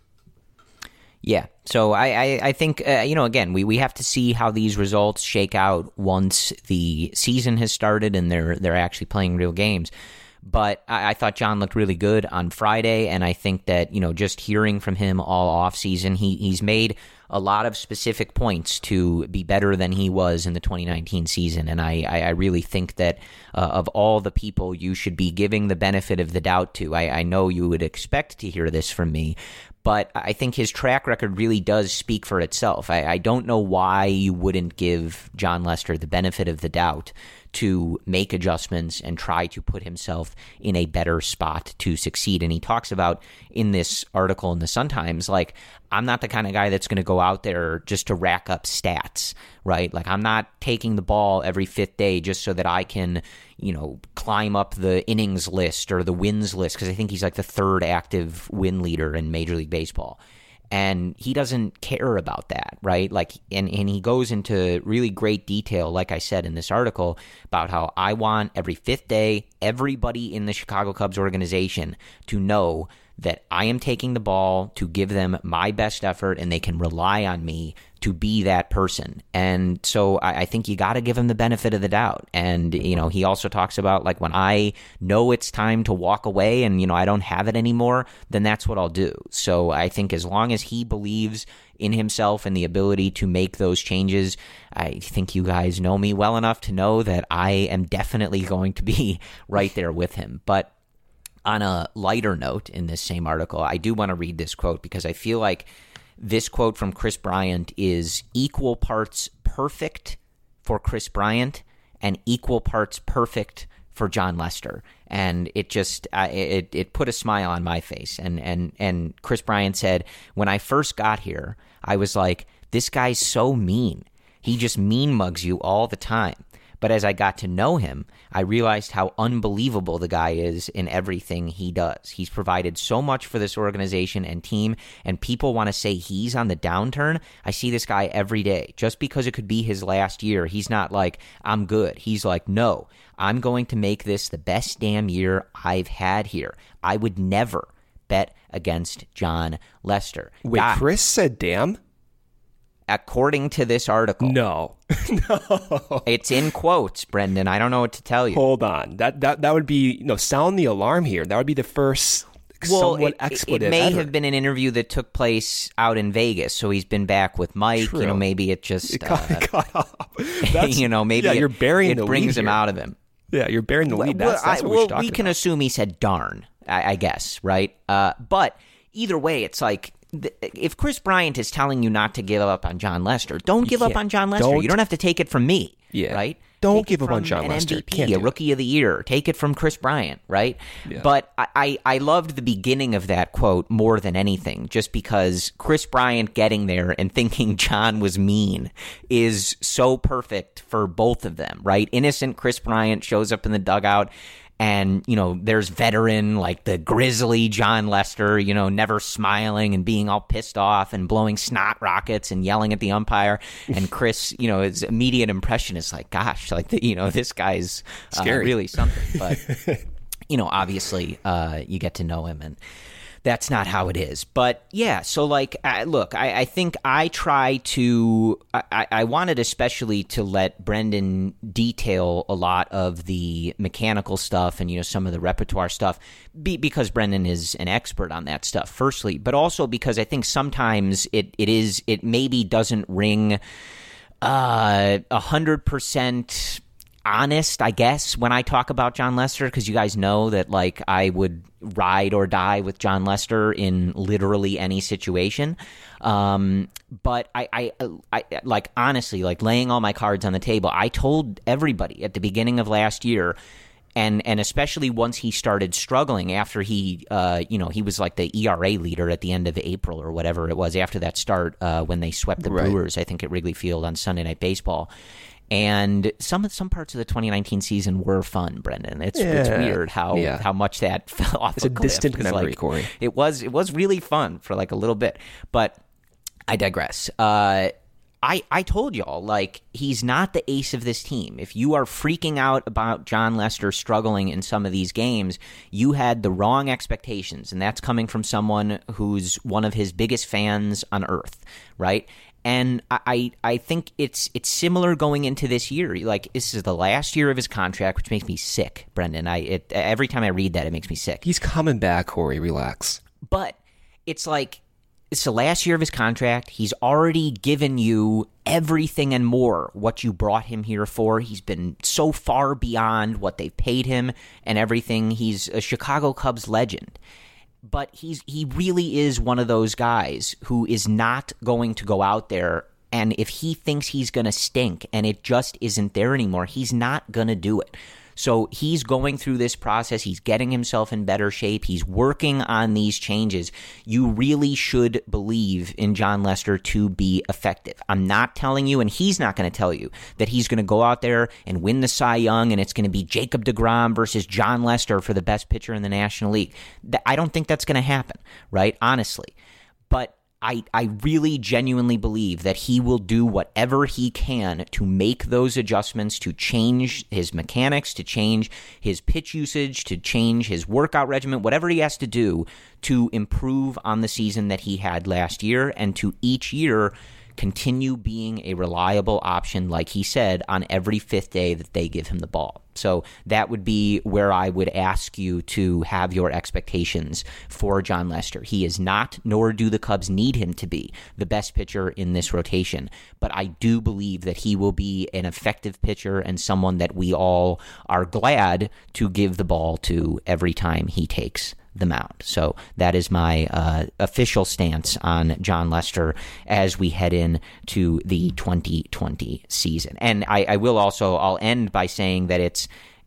Yeah, so I think, again, we have to see how these results shake out once the season has started and they're actually playing real games. But I thought Jon looked really good on Friday, and I think that, just hearing from him all offseason, he's made a lot of specific points to be better than he was in the 2019 season. And I really think that of all the people you should be giving the benefit of the doubt to, I know you would expect to hear this from me, but I think his track record really does speak for itself. I don't know why you wouldn't give Jon Lester the benefit of the doubt to make adjustments and try to put himself in a better spot to succeed. And he talks about in this article in the Sun-Times, like, I'm not the kind of guy that's going to go out there just to rack up stats, right? Like, I'm not taking the ball every 5th day just so that I can, climb up the innings list or the wins list, because I think he's like the 3rd active win leader in Major League Baseball. And he doesn't care about that, right? Like, and he goes into really great detail, like I said in this article, about how I want every 5th day, everybody in the Chicago Cubs organization to know that I am taking the ball to give them my best effort and they can rely on me to be that person. And so I think you got to give him the benefit of the doubt. And, he also talks about, like, when I know it's time to walk away and, I don't have it anymore, then that's what I'll do. So I think as long as he believes in himself and the ability to make those changes, I think you guys know me well enough to know that I am definitely going to be right there with him. But on a lighter note in this same article, I do want to read this quote because I feel like this quote from Kris Bryant is equal parts perfect for Kris Bryant and equal parts perfect for Jon Lester. And it just it put a smile on my face. And Chris Bryant said, when I first got here, I was like, this guy's so mean. He just mean mugs you all the time. But as I got to know him, I realized how unbelievable the guy is in everything he does. He's provided so much for this organization and team, and people want to say he's on the downturn. I see this guy every day. Just because it could be his last year, he's not like, I'm good. He's like, no, I'm going to make this the best damn year I've had here. I would never bet against Jon Lester. Wait, Chris said damn? According to this article. No. No. It's in quotes, Brendan. I don't know what to tell you. Hold on. That would be, sound the alarm here. That would be the first somewhat expletive it may ever. have been an interview that took place out in Vegas, so he's been back with Mike. True. Maybe it just, it got off. maybe you're burying the it brings lead him here. out of him. Yeah, you're burying the lead. That's what we're talking we can about. assume he said darn, I guess, right? But either way, it's like, if Chris Bryant is telling you not to give up on Jon Lester, don't give up on Jon Lester. You don't have to take it from me, right? Don't take give up on Jon Lester. An MVP, a Rookie of the Year. Take it from Chris Bryant, right? Yeah. But I loved the beginning of that quote more than anything, just because Chris Bryant getting there and thinking Jon was mean is so perfect for both of them, right? Innocent Chris Bryant shows up in the dugout. And, there's veteran, like the grizzly Jon Lester, never smiling and being all pissed off and blowing snot rockets and yelling at the umpire. And Chris, his immediate impression is like, gosh, like, this guy's really something. But, obviously you get to know him, and that's not how it is. But yeah, so like, look, I think I try to, I wanted especially to let Brendan detail a lot of the mechanical stuff and, some of the repertoire stuff because Brendan is an expert on that stuff, firstly, but also because I think sometimes it maybe doesn't ring 100% honest, I guess, when I talk about Jon Lester, because you guys know that, like, I would ride or die with Jon Lester in literally any situation. But I like, honestly, like, laying all my cards on the table, I told everybody at the beginning of last year, and especially once he started struggling after he was like the ERA leader at the end of April or whatever it was after that start when they swept the Brewers, I think, at Wrigley Field on Sunday Night Baseball. And some parts of the 2019 season were fun, Brendan. It's weird how much that fell off. It's a distant memory, like, Corey. It was really fun for like a little bit, but I digress. I told y'all, like, he's not the ace of this team. If you are freaking out about Jon Lester struggling in some of these games, you had the wrong expectations, and that's coming from someone who's one of his biggest fans on earth, right? And I think it's similar going into this year. Like, this is the last year of his contract, which makes me sick, Brendan. Every time I read that, it makes me sick. He's coming back, Corey. Relax. But it's like, it's the last year of his contract. He's already given you everything and more what you brought him here for. He's been so far beyond what they've paid him and everything. He's a Chicago Cubs legend. But he really is one of those guys who is not going to go out there, and if he thinks he's going to stink and it just isn't there anymore, he's not going to do it. So he's going through this process. He's getting himself in better shape. He's working on these changes. You really should believe in Jon Lester to be effective. I'm not telling you, and he's not going to tell you, that he's going to go out there and win the Cy Young and it's going to be Jacob deGrom versus Jon Lester for the best pitcher in the National League. I don't think that's going to happen, right? Honestly. But I really genuinely believe that he will do whatever he can to make those adjustments, to change his mechanics, to change his pitch usage, to change his workout regimen, whatever he has to do to improve on the season that he had last year, and to each year continue being a reliable option, like he said, on every fifth day that they give him the ball. So that would be where I would ask you to have your expectations for Jon Lester. He is not, nor do the Cubs need him to be, the best pitcher in this rotation. But I do believe that he will be an effective pitcher and someone that we all are glad to give the ball to every time he takes the mound. So that is my official stance on Jon Lester as we head in to the 2020 season. And I will also, I'll end by saying that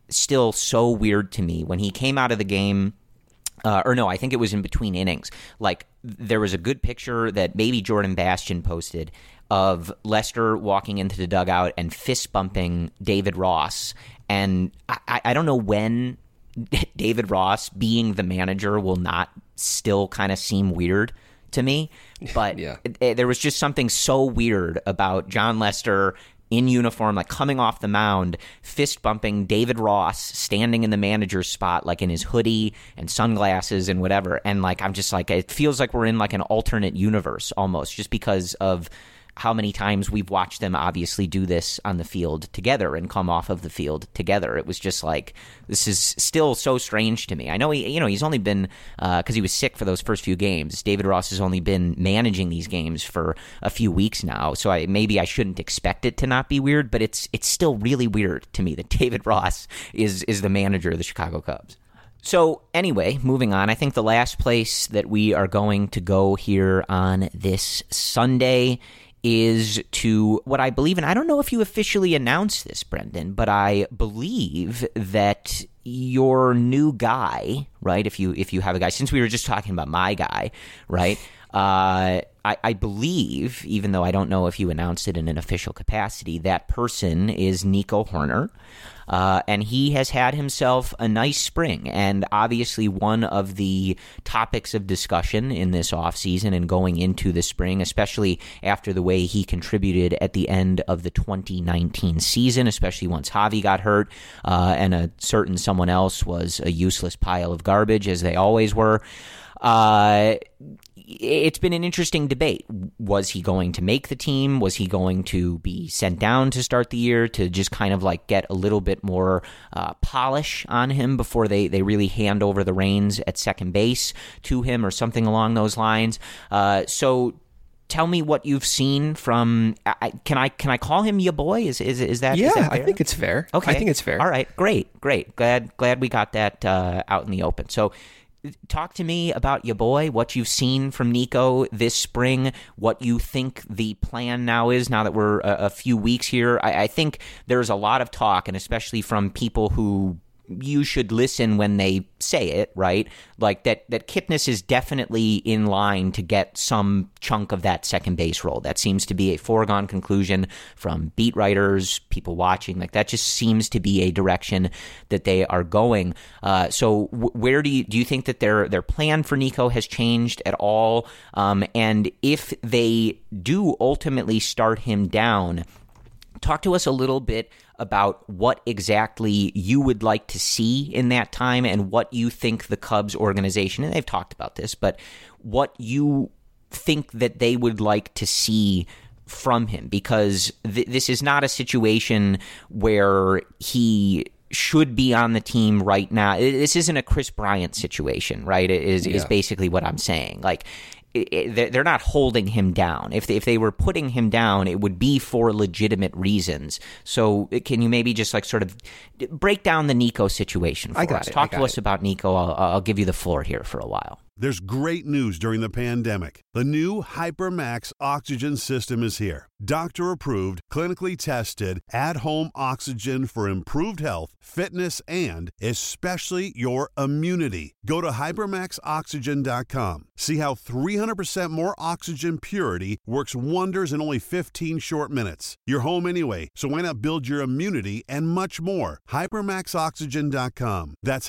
still so weird to me when he came out of the game. I think it was in between innings. Like, there was a good picture that maybe Jordan Bastian posted of Lester walking into the dugout and fist bumping David Ross. And I don't know when David Ross being the manager will not still kind of seem weird to me. But there was just something so weird about Jon Lester in uniform, like coming off the mound, fist bumping David Ross, standing in the manager's spot, like in his hoodie and sunglasses and whatever. And like, I'm just like, it feels like we're in like an alternate universe almost, just because of how many times we've watched them obviously do this on the field together and come off of the field together. It was just like, this is still so strange to me. I know he's only been, because he was sick for those first few games, David Ross has only been managing these games for a few weeks now, so maybe I shouldn't expect it to not be weird, but it's still really weird to me that David Ross is the manager of the Chicago Cubs. So anyway, moving on, I think the last place that we are going to go here on this Sunday is to what I believe, and I don't know if you officially announced this, Brendan, but I believe that your new guy, right, if you have a guy, since we were just talking about my guy, right, I believe, even though I don't know if you announced it in an official capacity, that person is Nico Hoerner. And he has had himself a nice spring, and obviously one of the topics of discussion in this offseason and going into the spring, especially after the way he contributed at the end of the 2019 season, especially once Javi got hurt, and a certain someone else was a useless pile of garbage, as they always were. It's been an interesting debate. Was he going to make the team? Was he going to be sent down to start the year to just kind of like get a little bit more polish on him before they really hand over the reins at second base to him or something along those lines? So tell me what you've seen from. Can I call him your boy? Is that? Yeah, is that fair? I think it's fair. Okay, I think it's fair. All right, great. Glad we got that out in the open. So, talk to me about your boy, what you've seen from Nico this spring, what you think the plan now is, now that we're a few weeks here. I think there's a lot of talk, and especially from people who you should listen when they say it, right? Like that Kipnis is definitely in line to get some chunk of that second base role. That seems to be a foregone conclusion from beat writers, people watching. Like that just seems to be a direction that they are going. So where do you think that their plan for Nico has changed at all? And if they do ultimately start him down, talk to us a little bit about what exactly you would like to see in that time and what you think the Cubs organization, and they've talked about this, but what you think that they would like to see from him, because this is not a situation where he should be on the team right now. This isn't a Chris Bryant situation, right? Is basically what I'm saying. Like, they're not holding him down. If they were putting him down, it would be for legitimate reasons. So can you maybe just like sort of break down the Nico situation for us? Talk to us about Nico. I'll give you the floor here for a while. There's great news during the pandemic. The new HyperMax oxygen system is here. Doctor-approved, clinically tested, at-home oxygen for improved health, fitness, and especially your immunity. Go to HyperMaxOxygen.com. See how 300% more oxygen purity works wonders in only 15 short minutes. You're home anyway, so why not build your immunity and much more? HyperMaxOxygen.com. That's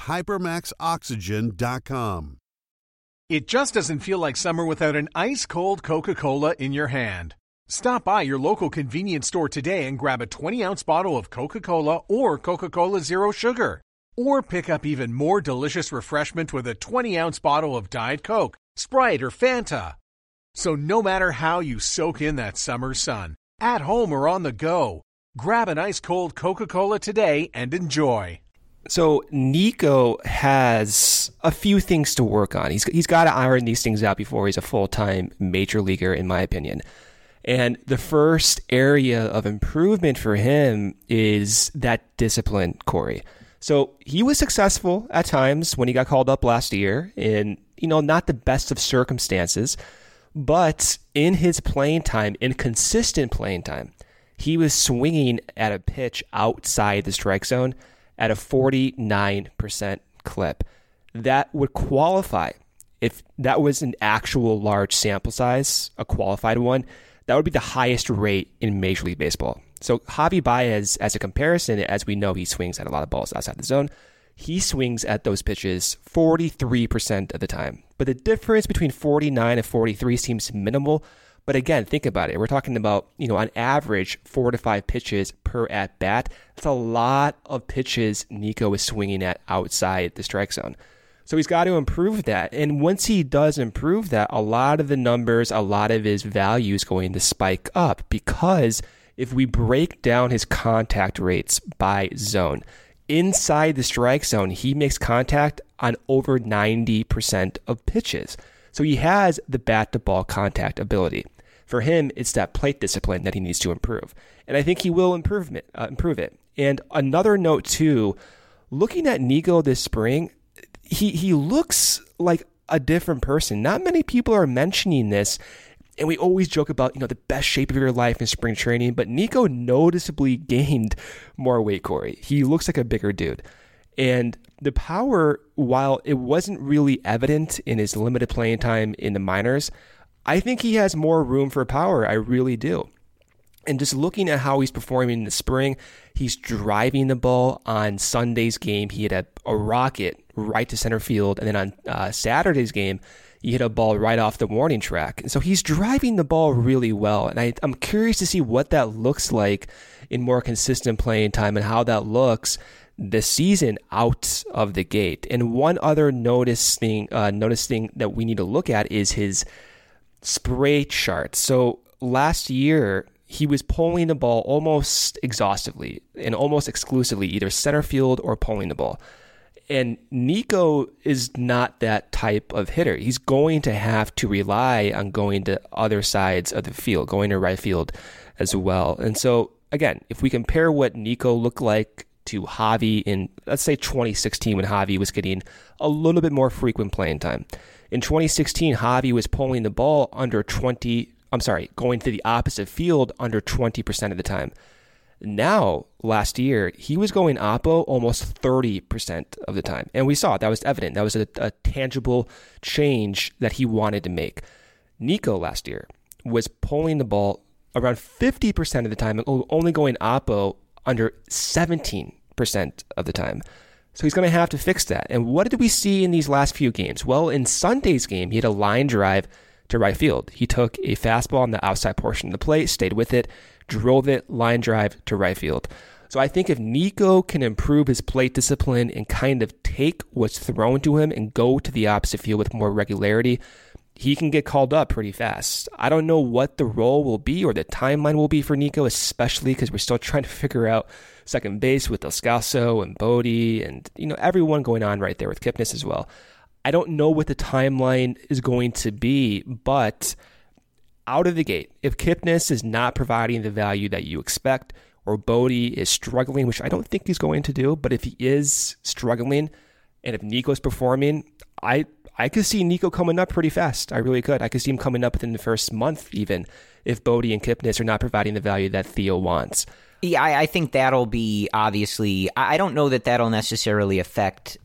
HyperMaxOxygen.com. It just doesn't feel like summer without an ice-cold Coca-Cola in your hand. Stop by your local convenience store today and grab a 20-ounce bottle of Coca-Cola or Coca-Cola Zero Sugar. Or pick up even more delicious refreshment with a 20-ounce bottle of Diet Coke, Sprite, or Fanta. So no matter how you soak in that summer sun, at home or on the go, grab an ice-cold Coca-Cola today and enjoy. So Nico has a few things to work on. He's got to iron these things out before he's a full-time major leaguer, in my opinion. And the first area of improvement for him is that discipline, Corey. So he was successful at times when he got called up last year in, not the best of circumstances, but in his playing time, in consistent playing time, he was swinging at a pitch outside the strike zone at a 49% clip. That would qualify. If that was an actual large sample size, a qualified one, that would be the highest rate in Major League Baseball. So Javi Baez, as a comparison, as we know, he swings at a lot of balls outside the zone. He swings at those pitches 43% of the time. But the difference between 49 and 43 seems minimal. But again, think about it. We're talking about, on average, 4 to 5 pitches per at-bat. That's a lot of pitches Nico is swinging at outside the strike zone. So he's got to improve that. And once he does improve that, a lot of the numbers, a lot of his value is going to spike up, because if we break down his contact rates by zone, inside the strike zone, he makes contact on over 90% of pitches. So he has the bat-to-ball contact ability. For him, it's that plate discipline that he needs to improve. And I think he will improve it. And another note, too, looking at Nico this spring, he looks like a different person. Not many people are mentioning this, and we always joke about, the best shape of your life in spring training, but Nico noticeably gained more weight, Corey. He looks like a bigger dude. And the power, while it wasn't really evident in his limited playing time in the minors, I think he has more room for power. I really do. And just looking at how he's performing in the spring, he's driving the ball. On Sunday's game, he hit a rocket right to center field. And then on Saturday's game, he hit a ball right off the warning track. And so he's driving the ball really well. And I'm curious to see what that looks like in more consistent playing time and how that looks this season out of the gate. And one other notice thing that we need to look at is his spray chart. So last year, he was pulling the ball almost exhaustively and almost exclusively, either center field or pulling the ball. And Nico is not that type of hitter. He's going to have to rely on going to other sides of the field, going to right field as well. And so, again, if we compare what Nico looked like to Javi in, let's say, 2016, when Javi was getting a little bit more frequent playing time. In 2016, Javi was pulling the ball going to the opposite field under 20% of the time. Now, last year, he was going oppo almost 30% of the time. And we saw it. That was evident. That was a tangible change that he wanted to make. Nico last year was pulling the ball around 50% of the time and only going oppo under 17% of the time. So he's going to have to fix that. And what did we see in these last few games? Well, in Sunday's game, he had a line drive to right field. He took a fastball on the outside portion of the plate, stayed with it, drove it, line drive to right field. So I think if Nico can improve his plate discipline and kind of take what's thrown to him and go to the opposite field with more regularity, he can get called up pretty fast. I don't know what the role will be or the timeline will be for Nico, especially because we're still trying to figure out second base with Descalso and Bodie and everyone going on right there with Kipnis as well. I don't know what the timeline is going to be, but out of the gate, if Kipnis is not providing the value that you expect, or Bodie is struggling, which I don't think he's going to do, but if he is struggling, and if Nico's performing, I could see Nico coming up pretty fast. I really could. I could see him coming up within the first month, even, if Bodie and Kipnis are not providing the value that Theo wants. Yeah, I think that'll be, obviously, I don't know that that'll necessarily affect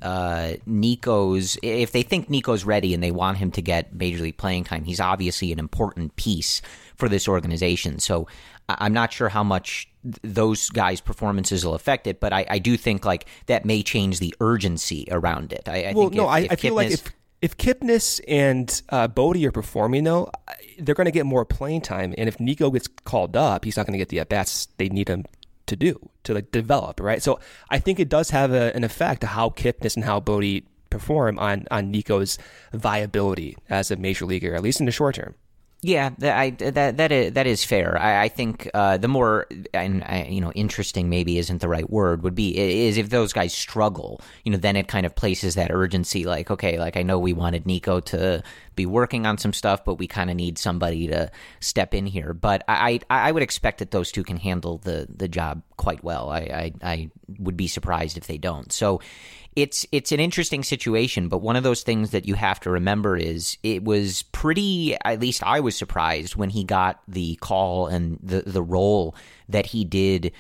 Nico's, if they think Nico's ready and they want him to get Major League playing time, he's obviously an important piece for this organization. So I'm not sure how much those guys' performances will affect it, but I do think that may change the urgency around it. I feel like if Kipnis and Bodie are performing, though, they're going to get more playing time. And if Nico gets called up, he's not going to get the at-bats they need him to develop, right? So I think it does have an effect of how Kipnis and how Bodie perform on Nico's viability as a major leaguer, at least in the short term. Yeah, that is fair. I think the more interesting maybe isn't the right word is if those guys struggle, then it kind of places that urgency. I know we wanted Nico to be working on some stuff, but we kind of need somebody to step in here. But I would expect that those two can handle the job quite well. I would be surprised if they don't. So it's an interesting situation, but one of those things that you have to remember is it was pretty, at least I was surprised when he got the call and the role that he did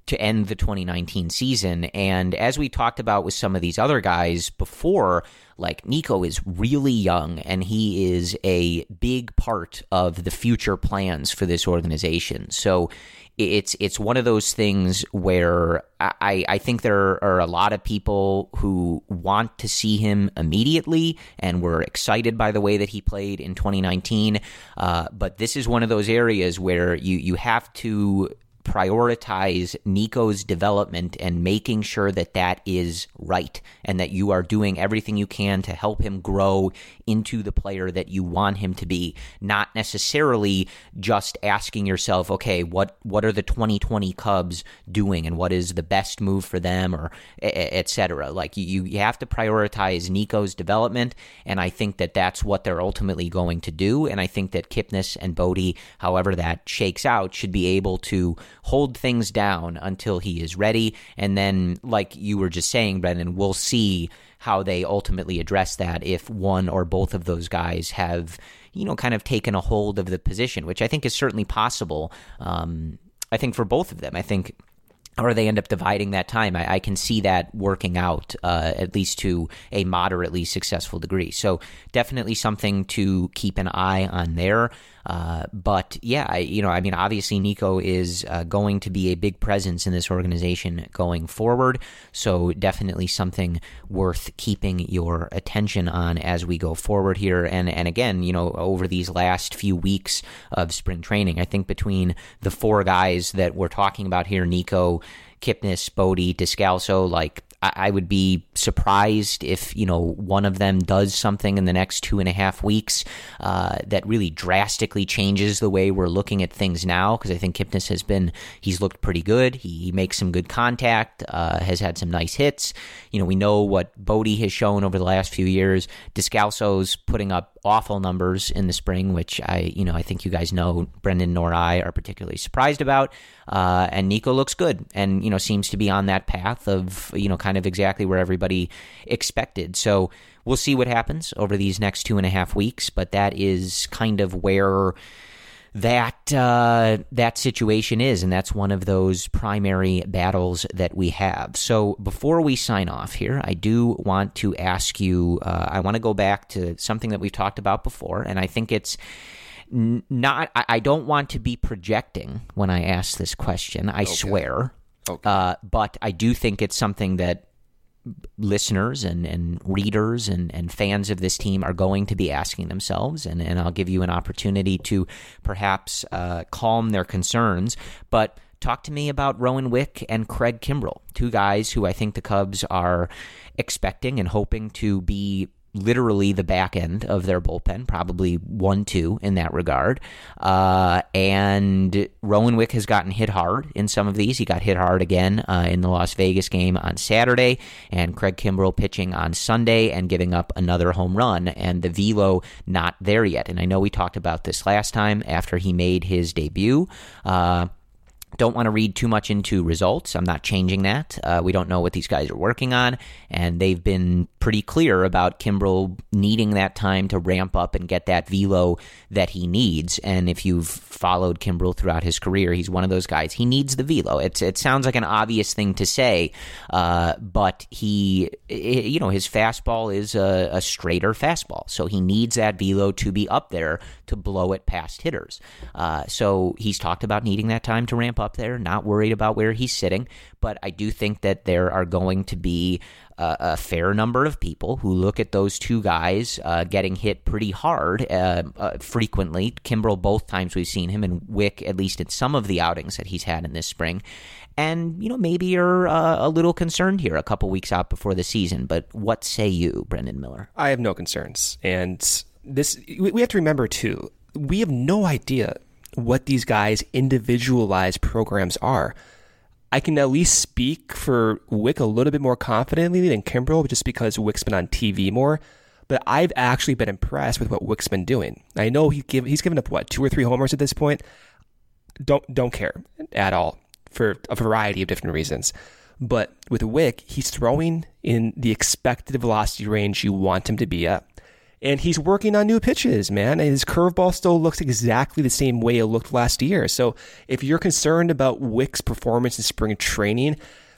to end the 2019 season. And as we talked about with some of these other guys before, like Nico is really young and he is a big part of the future plans for this organization. So it's one of those things where I think there are a lot of people who want to see him immediately and were excited by the way that he played in 2019. But this is one of those areas where you have to prioritize Nico's development and making sure that that is right and that you are doing everything you can to help him grow into the player that you want him to be, not necessarily just asking yourself, okay, what are the 2020 Cubs doing and what is the best move for them, or et cetera. Like you have to prioritize Nico's development, and I think that that's what they're ultimately going to do, and I think that Kipnis and Bote, however that shakes out, should be able to hold things down until he is ready. And then, like you were just saying, Brendan, we'll see how they ultimately address that if one or both of those guys have, kind of taken a hold of the position, which I think is certainly possible. I think for both of them, or they end up dividing that time. I can see that working out, at least to a moderately successful degree. So definitely something to keep an eye on there. But yeah, obviously Nico is going to be a big presence in this organization going forward. So definitely something worth keeping your attention on as we go forward here. And again, over these last few weeks of spring training, I think between the four guys that we're talking about here, Nico, Kipnis, Bote, Descalso, I would be surprised if, one of them does something in the next 2.5 weeks that really drastically changes the way we're looking at things now, because I think Kipnis he's looked pretty good. He makes some good contact, has had some nice hits. We know what Bote has shown over the last few years. Descalso's putting up awful numbers in the spring, which I think you guys know Brendan nor I are particularly surprised about. And Nico looks good and, seems to be on that path of, kind of exactly where everybody expected. So we'll see what happens over these next 2.5 weeks, but that is kind of where that situation is, and that's one of those primary battles that we have. So before we sign off here, I do want to ask you, I want to go back to something that we've talked about before, and I think it's not, I don't want to be projecting when I ask this question, I swear. Okay. But I do think it's something that listeners and readers and fans of this team are going to be asking themselves, and I'll give you an opportunity to perhaps calm their concerns. But talk to me about Rowan Wick and Craig Kimbrel, two guys who I think the Cubs are expecting and hoping to be literally the back end of their bullpen, probably 1-2 in that regard. And Rowan Wick has gotten hit hard in some of these. He got hit hard again in the Las Vegas game on Saturday, and Craig Kimbrel pitching on Sunday and giving up another home run, and the velo not there yet. And I know we talked about this last time after he made his debut. Don't want to read too much into results. I'm not changing that. We don't know what these guys are working on, and they've been pretty clear about Kimbrel needing that time to ramp up and get that velo that he needs. And if you've followed Kimbrel throughout his career, he's one of those guys. He needs the velo. It sounds like an obvious thing to say, but his fastball is a straighter fastball, so he needs that velo to be up there to blow it past hitters. So he's talked about needing that time to ramp up there, not worried about where he's sitting, but I do think that there are going to be a fair number of people who look at those two guys getting hit pretty hard frequently. Kimbrel, both times we've seen him, and Wick, at least in some of the outings that he's had in this spring. And, maybe you're a little concerned here a couple weeks out before the season, but what say you, Brendan Miller? I have no concerns. And we have to remember, too, we have no idea what these guys' individualized programs are. I can at least speak for Wick a little bit more confidently than Kimbrel, just because Wick's been on TV more. But I've actually been impressed with what Wick's been doing. I know he's given up, 2 or 3 homers at this point. Don't care at all for a variety of different reasons. But with Wick, he's throwing in the expected velocity range you want him to be at. And he's working on new pitches, man. And his curveball still looks exactly the same way it looked last year. So if you're concerned about Wick's performance in spring training,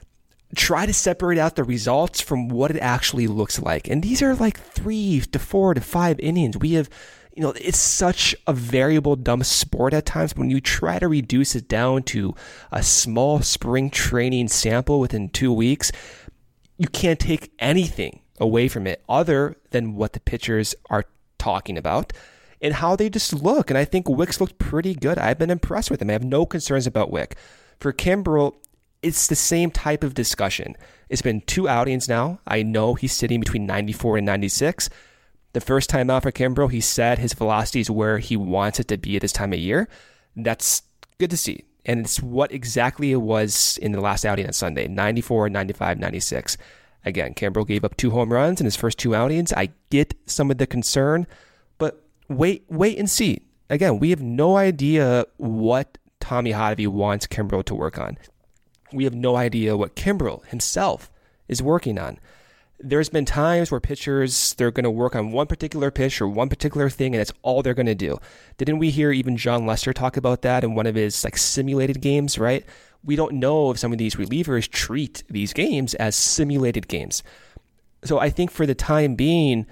try to separate out the results from what it actually looks like. And these are like 3 to 4 to 5 innings. We have, it's such a variable, dumb sport at times. When you try to reduce it down to a small spring training sample within 2 weeks, you can't take anything away from it other than what the pitchers are talking about and how they just look. And I think Wick's looked pretty good. I've been impressed with him. I have no concerns about Wick. For Kimbrel, it's the same type of discussion. It's been 2 outings now. I know he's sitting between 94 and 96. The first time out for Kimbrel, he said his velocity is where he wants it to be at this time of year. That's good to see. And it's what exactly it was in the last outing on Sunday, 94, 95, 96. Again, Kimbrel gave up 2 home runs in his first 2 outings. I get some of the concern, but wait and see. Again, we have no idea what Tommy Hotovy wants Kimbrel to work on. We have no idea what Kimbrel himself is working on. There's been times where pitchers, they're going to work on one particular pitch or one particular thing, and that's all they're going to do. Didn't we hear even John Lester talk about that in one of his simulated games, right? We don't know if some of these relievers treat these games as simulated games. So I think for the time being,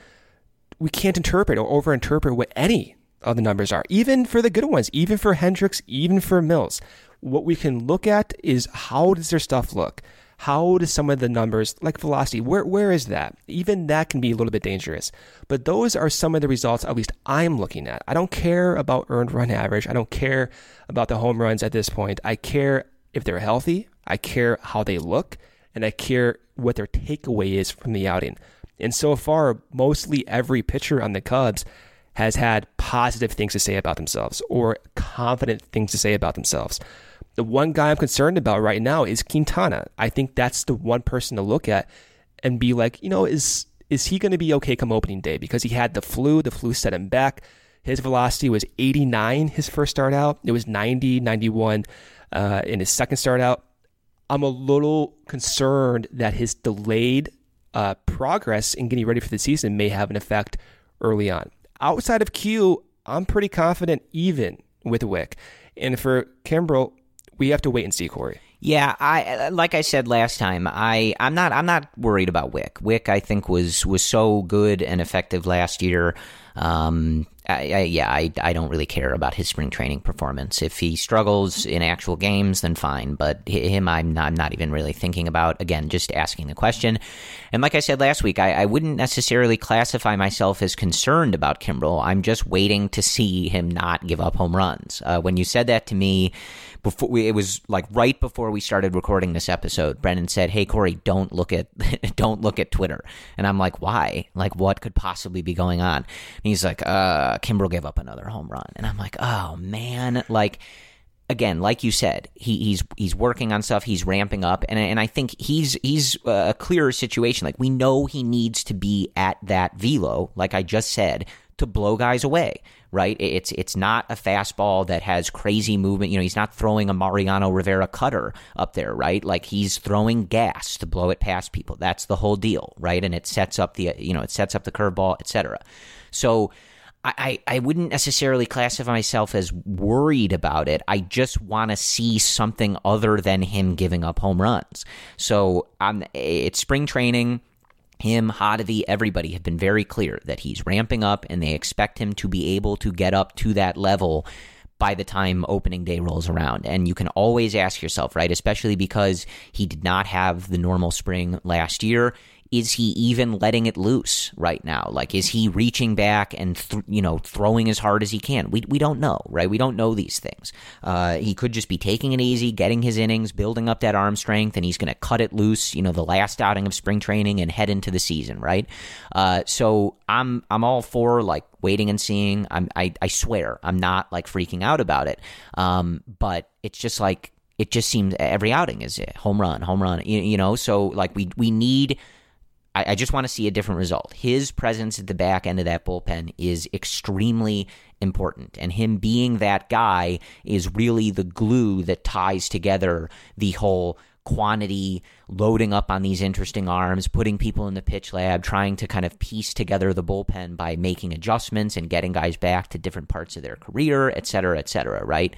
we can't interpret or overinterpret what any of the numbers are, even for the good ones, even for Hendricks, even for Mills. What we can look at is how does their stuff look? How does some of the numbers, like velocity, where is that? Even that can be a little bit dangerous. But those are some of the results at least I'm looking at. I don't care about earned run average. I don't care about the home runs at this point. I care if they're healthy, I care how they look, and I care what their takeaway is from the outing. And so far, mostly every pitcher on the Cubs has had positive things to say about themselves or confident things to say about themselves. The one guy I'm concerned about right now is Quintana. I think that's the one person to look at and be like, is he going to be okay come opening day? Because he had the flu. The flu set him back. His velocity was 89 his first start out. It was 90, 91 in his second start out. I'm a little concerned that his delayed progress in getting ready for the season may have an effect early on. Outside of Q, I'm pretty confident even with Wick. And for Kimbrel, we have to wait and see, Corey. Yeah, like I said last time, I'm not worried about Wick. Wick, I think, was so good and effective last year. I don't really care about his spring training performance. If he struggles in actual games, then fine. But him, I'm not even really thinking about. Again, just asking the question. And like I said last week, I wouldn't necessarily classify myself as concerned about Kimbrel. I'm just waiting to see him not give up home runs. When you said that to me, it was like right before we started recording this episode, Brendan said, "Hey Corey, don't look at Twitter." And I'm like, "Why? Like, what could possibly be going on?" And he's like, "Kimbrel gave up another home run." And I'm like, "Oh man!" Like, again, like you said, he's working on stuff. He's ramping up, and I think he's a clearer situation. Like, we know he needs to be at that velo, like I just said, to blow guys away. Right? It's not a fastball that has crazy movement. He's not throwing a Mariano Rivera cutter up there, right? Like, he's throwing gas to blow it past people. That's the whole deal, right? And it sets up the curveball, etc. So I wouldn't necessarily classify myself as worried about it. I just want to see something other than him giving up home runs. So it's spring training. Him, Hotovy, everybody have been very clear that he's ramping up and they expect him to be able to get up to that level by the time opening day rolls around. And you can always ask yourself, right, especially because he did not have the normal spring last year, is he even letting it loose right now? Like, is he reaching back and, throwing as hard as he can? We don't know, right? We don't know these things. He could just be taking it easy, getting his innings, building up that arm strength, and he's going to cut it loose, the last outing of spring training and head into the season, right? So I'm all for, like, waiting and seeing. I swear, I'm not, like, freaking out about it. But it's just like, it just seems every outing is a home run, so, like, we need... I just want to see a different result. His presence at the back end of that bullpen is extremely important, and him being that guy is really the glue that ties together the whole quantity, loading up on these interesting arms, putting people in the pitch lab, trying to kind of piece together the bullpen by making adjustments and getting guys back to different parts of their career, et cetera, right?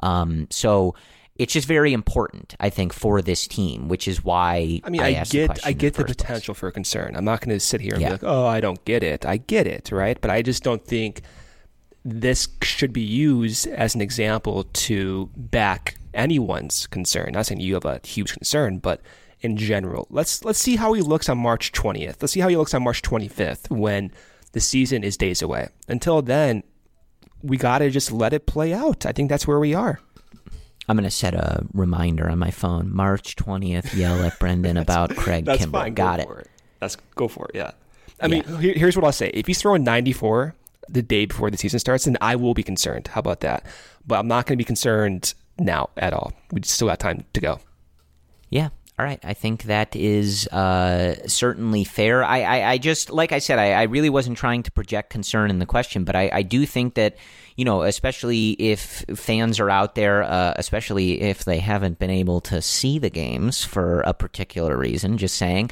So it's just very important, I think, for this team, which is why I get the potential for concern. I'm not going to sit here and be like, oh, I don't get it. I get it, right? But I just don't think this should be used as an example to back anyone's concern. Not saying you have a huge concern, but in general, let's see how he looks on March 20th. Let's see how he looks on March 25th when the season is days away. Until then, we got to just let it play out. I think that's where we are. I'm going to set a reminder on my phone. March 20th, yell at Brendan about Craig that's Kimbrel. Fine. Got it. Go for it, yeah. I mean, here's what I'll say. If he's throwing 94 the day before the season starts, then I will be concerned. How about that? But I'm not going to be concerned now at all. We still got time to go. Yeah. All right. I think that is certainly fair. I just, like I said, I really wasn't trying to project concern in the question, but I do think that, especially if fans are out there, especially if they haven't been able to see the games for a particular reason, just saying,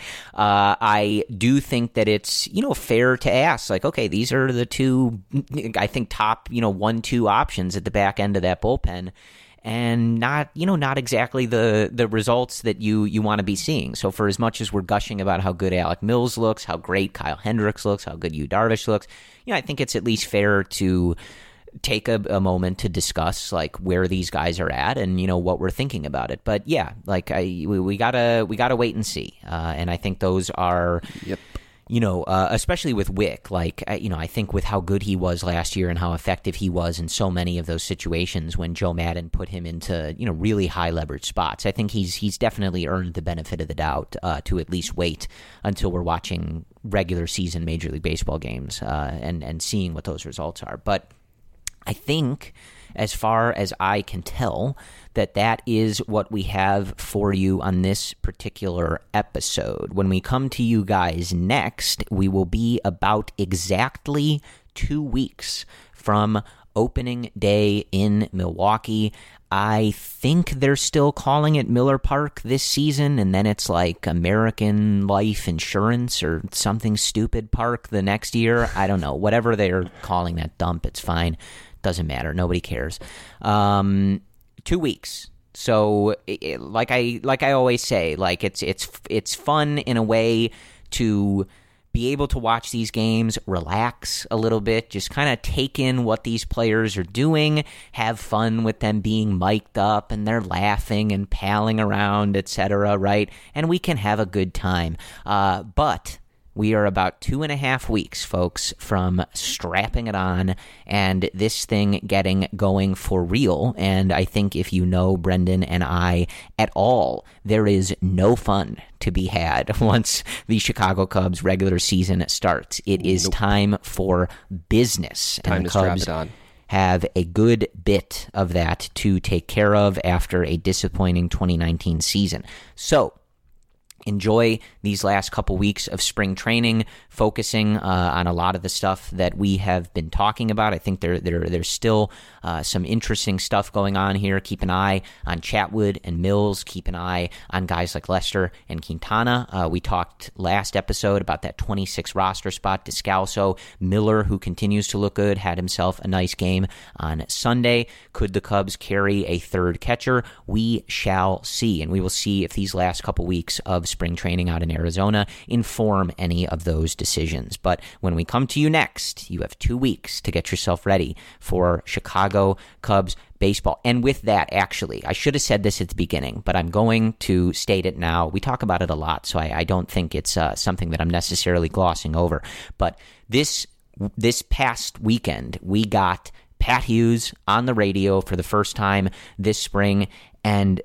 I do think that it's, fair to ask, like, okay, these are the two, I think, top, 1-2 options at the back end of that bullpen. And not exactly the results that you want to be seeing. So for as much as we're gushing about how good Alec Mills looks, how great Kyle Hendricks looks, how good Yu Darvish looks, I think it's at least fair to take a moment to discuss like where these guys are at and what we're thinking about it. But yeah, like we gotta wait and see. And I think those are. Yep. Especially with Wick, like, I think with how good he was last year and how effective he was in so many of those situations when Joe Maddon put him into, really high leverage spots, I think he's definitely earned the benefit of the doubt to at least wait until we're watching regular season Major League Baseball games and seeing what those results are. But I think, as far as I can tell, that is what we have for you on this particular episode. When we come to you guys next, we will be about exactly 2 weeks from opening day in Milwaukee. I think they're still calling it Miller Park this season, and then it's like American Life Insurance or something stupid park the next year. I don't know. Whatever they're calling that dump, it's fine. Doesn't matter. Nobody cares. 2 weeks. So, like I always say, like it's fun in a way to be able to watch these games, relax a little bit, just kind of take in what these players are doing, have fun with them being mic'd up and they're laughing and palling around, etc. Right? And we can have a good time. But we are about 2.5 weeks, folks, from strapping it on and this thing getting going for real. And I think if you know Brendan and I at all, there is no fun to be had once the Chicago Cubs regular season starts. It is time for business. Time and to Cubs strap it on. Have a good bit of that to take care of after a disappointing 2019 season. So, enjoy these last couple weeks of spring training, focusing on a lot of the stuff that we have been talking about. I think there's still some interesting stuff going on here. Keep an eye on Chatwood and Mills. Keep an eye on guys like Lester and Quintana. We talked last episode about that 26 roster spot. Descalso, Miller, who continues to look good, had himself a nice game on Sunday. Could the Cubs carry a third catcher? We shall see, and we will see if these last couple weeks of spring training out in Arizona inform any of those decisions. But when we come to you next, you have 2 weeks to get yourself ready for Chicago Cubs baseball. And with that, actually, I should have said this at the beginning, but I'm going to state it now. We talk about it a lot, so I don't think it's something that I'm necessarily glossing over. But this past weekend, we got Pat Hughes on the radio for the first time this spring, and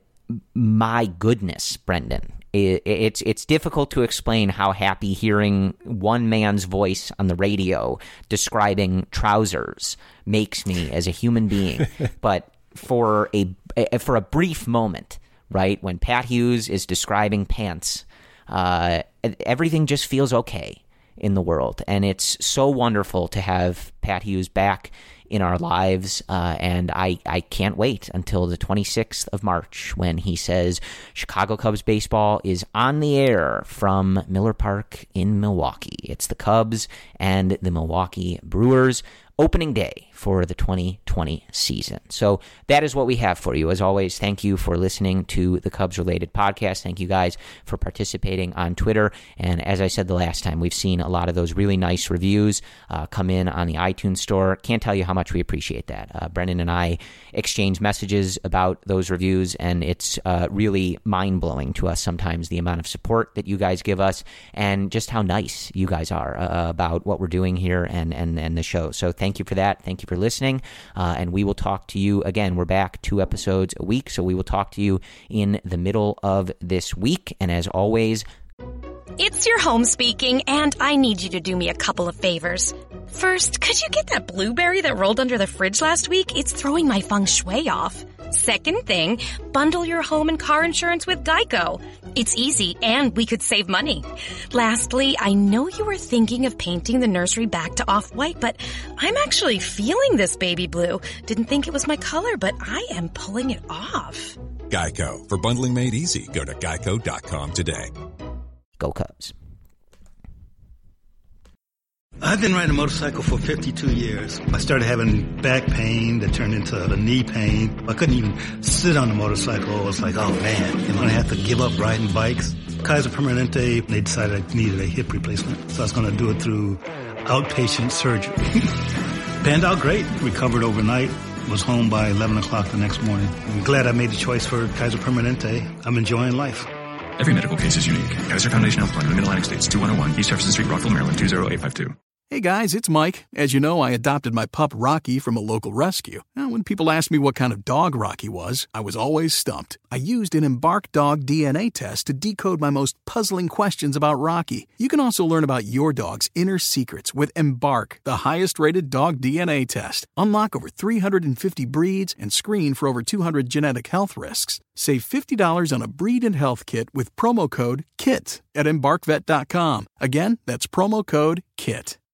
my goodness, Brendan, it's difficult to explain how happy hearing one man's voice on the radio describing trousers makes me as a human being. But for a brief moment, right, when Pat Hughes is describing pants, everything just feels okay in the world. And it's so wonderful to have Pat Hughes back in our lives. And I can't wait until the 26th of March when he says Chicago Cubs baseball is on the air from Miller Park in Milwaukee. It's the Cubs and the Milwaukee Brewers opening day for the 2020 season. So that is what we have for you. As always, thank you for listening to the Cubs Related podcast. Thank you guys for participating on Twitter. And as I said the last time, we've seen a lot of those really nice reviews come in on the iTunes store. Can't tell you how much we appreciate that. Brendan and I exchange messages about those reviews, and it's really mind-blowing to us sometimes the amount of support that you guys give us and just how nice you guys are about what we're doing here and the show. So thank you for that. Thank you for listening, and we will talk to you again. We're back 2 episodes a week, so we will talk to you in the middle of this week. And as always, it's your home speaking, and I need you to do me a couple of favors. First, could you get that blueberry that rolled under the fridge last week? It's throwing my feng shui off. Second thing, bundle your home and car insurance with Geico. It's easy, and we could save money. Lastly, I know you were thinking of painting the nursery back to off-white, but I'm actually feeling this baby blue. Didn't think it was my color, but I am pulling it off. Geico. For bundling made easy, go to geico.com today. Go Cubs. I've been riding a motorcycle for 52 years. I started having back pain that turned into the knee pain. I couldn't even sit on the motorcycle. I was like, oh man, am I going to have to give up riding bikes? Kaiser Permanente, they decided I needed a hip replacement. So I was going to do it through outpatient surgery. Panned out great. Recovered overnight. Was home by 11 o'clock the next morning. I'm glad I made the choice for Kaiser Permanente. I'm enjoying life. Every medical case is unique. Kaiser Foundation Health Plan of the Mid-Atlantic States, 2101 East Jefferson Street, Rockville, Maryland, 20852. Hey guys, it's Mike. As you know, I adopted my pup Rocky from a local rescue. Now, when people asked me what kind of dog Rocky was, I was always stumped. I used an Embark dog DNA test to decode my most puzzling questions about Rocky. You can also learn about your dog's inner secrets with Embark, the highest-rated dog DNA test. Unlock over 350 breeds and screen for over 200 genetic health risks. Save $50 on a breed and health kit with promo code KIT at EmbarkVet.com. Again, that's promo code KIT.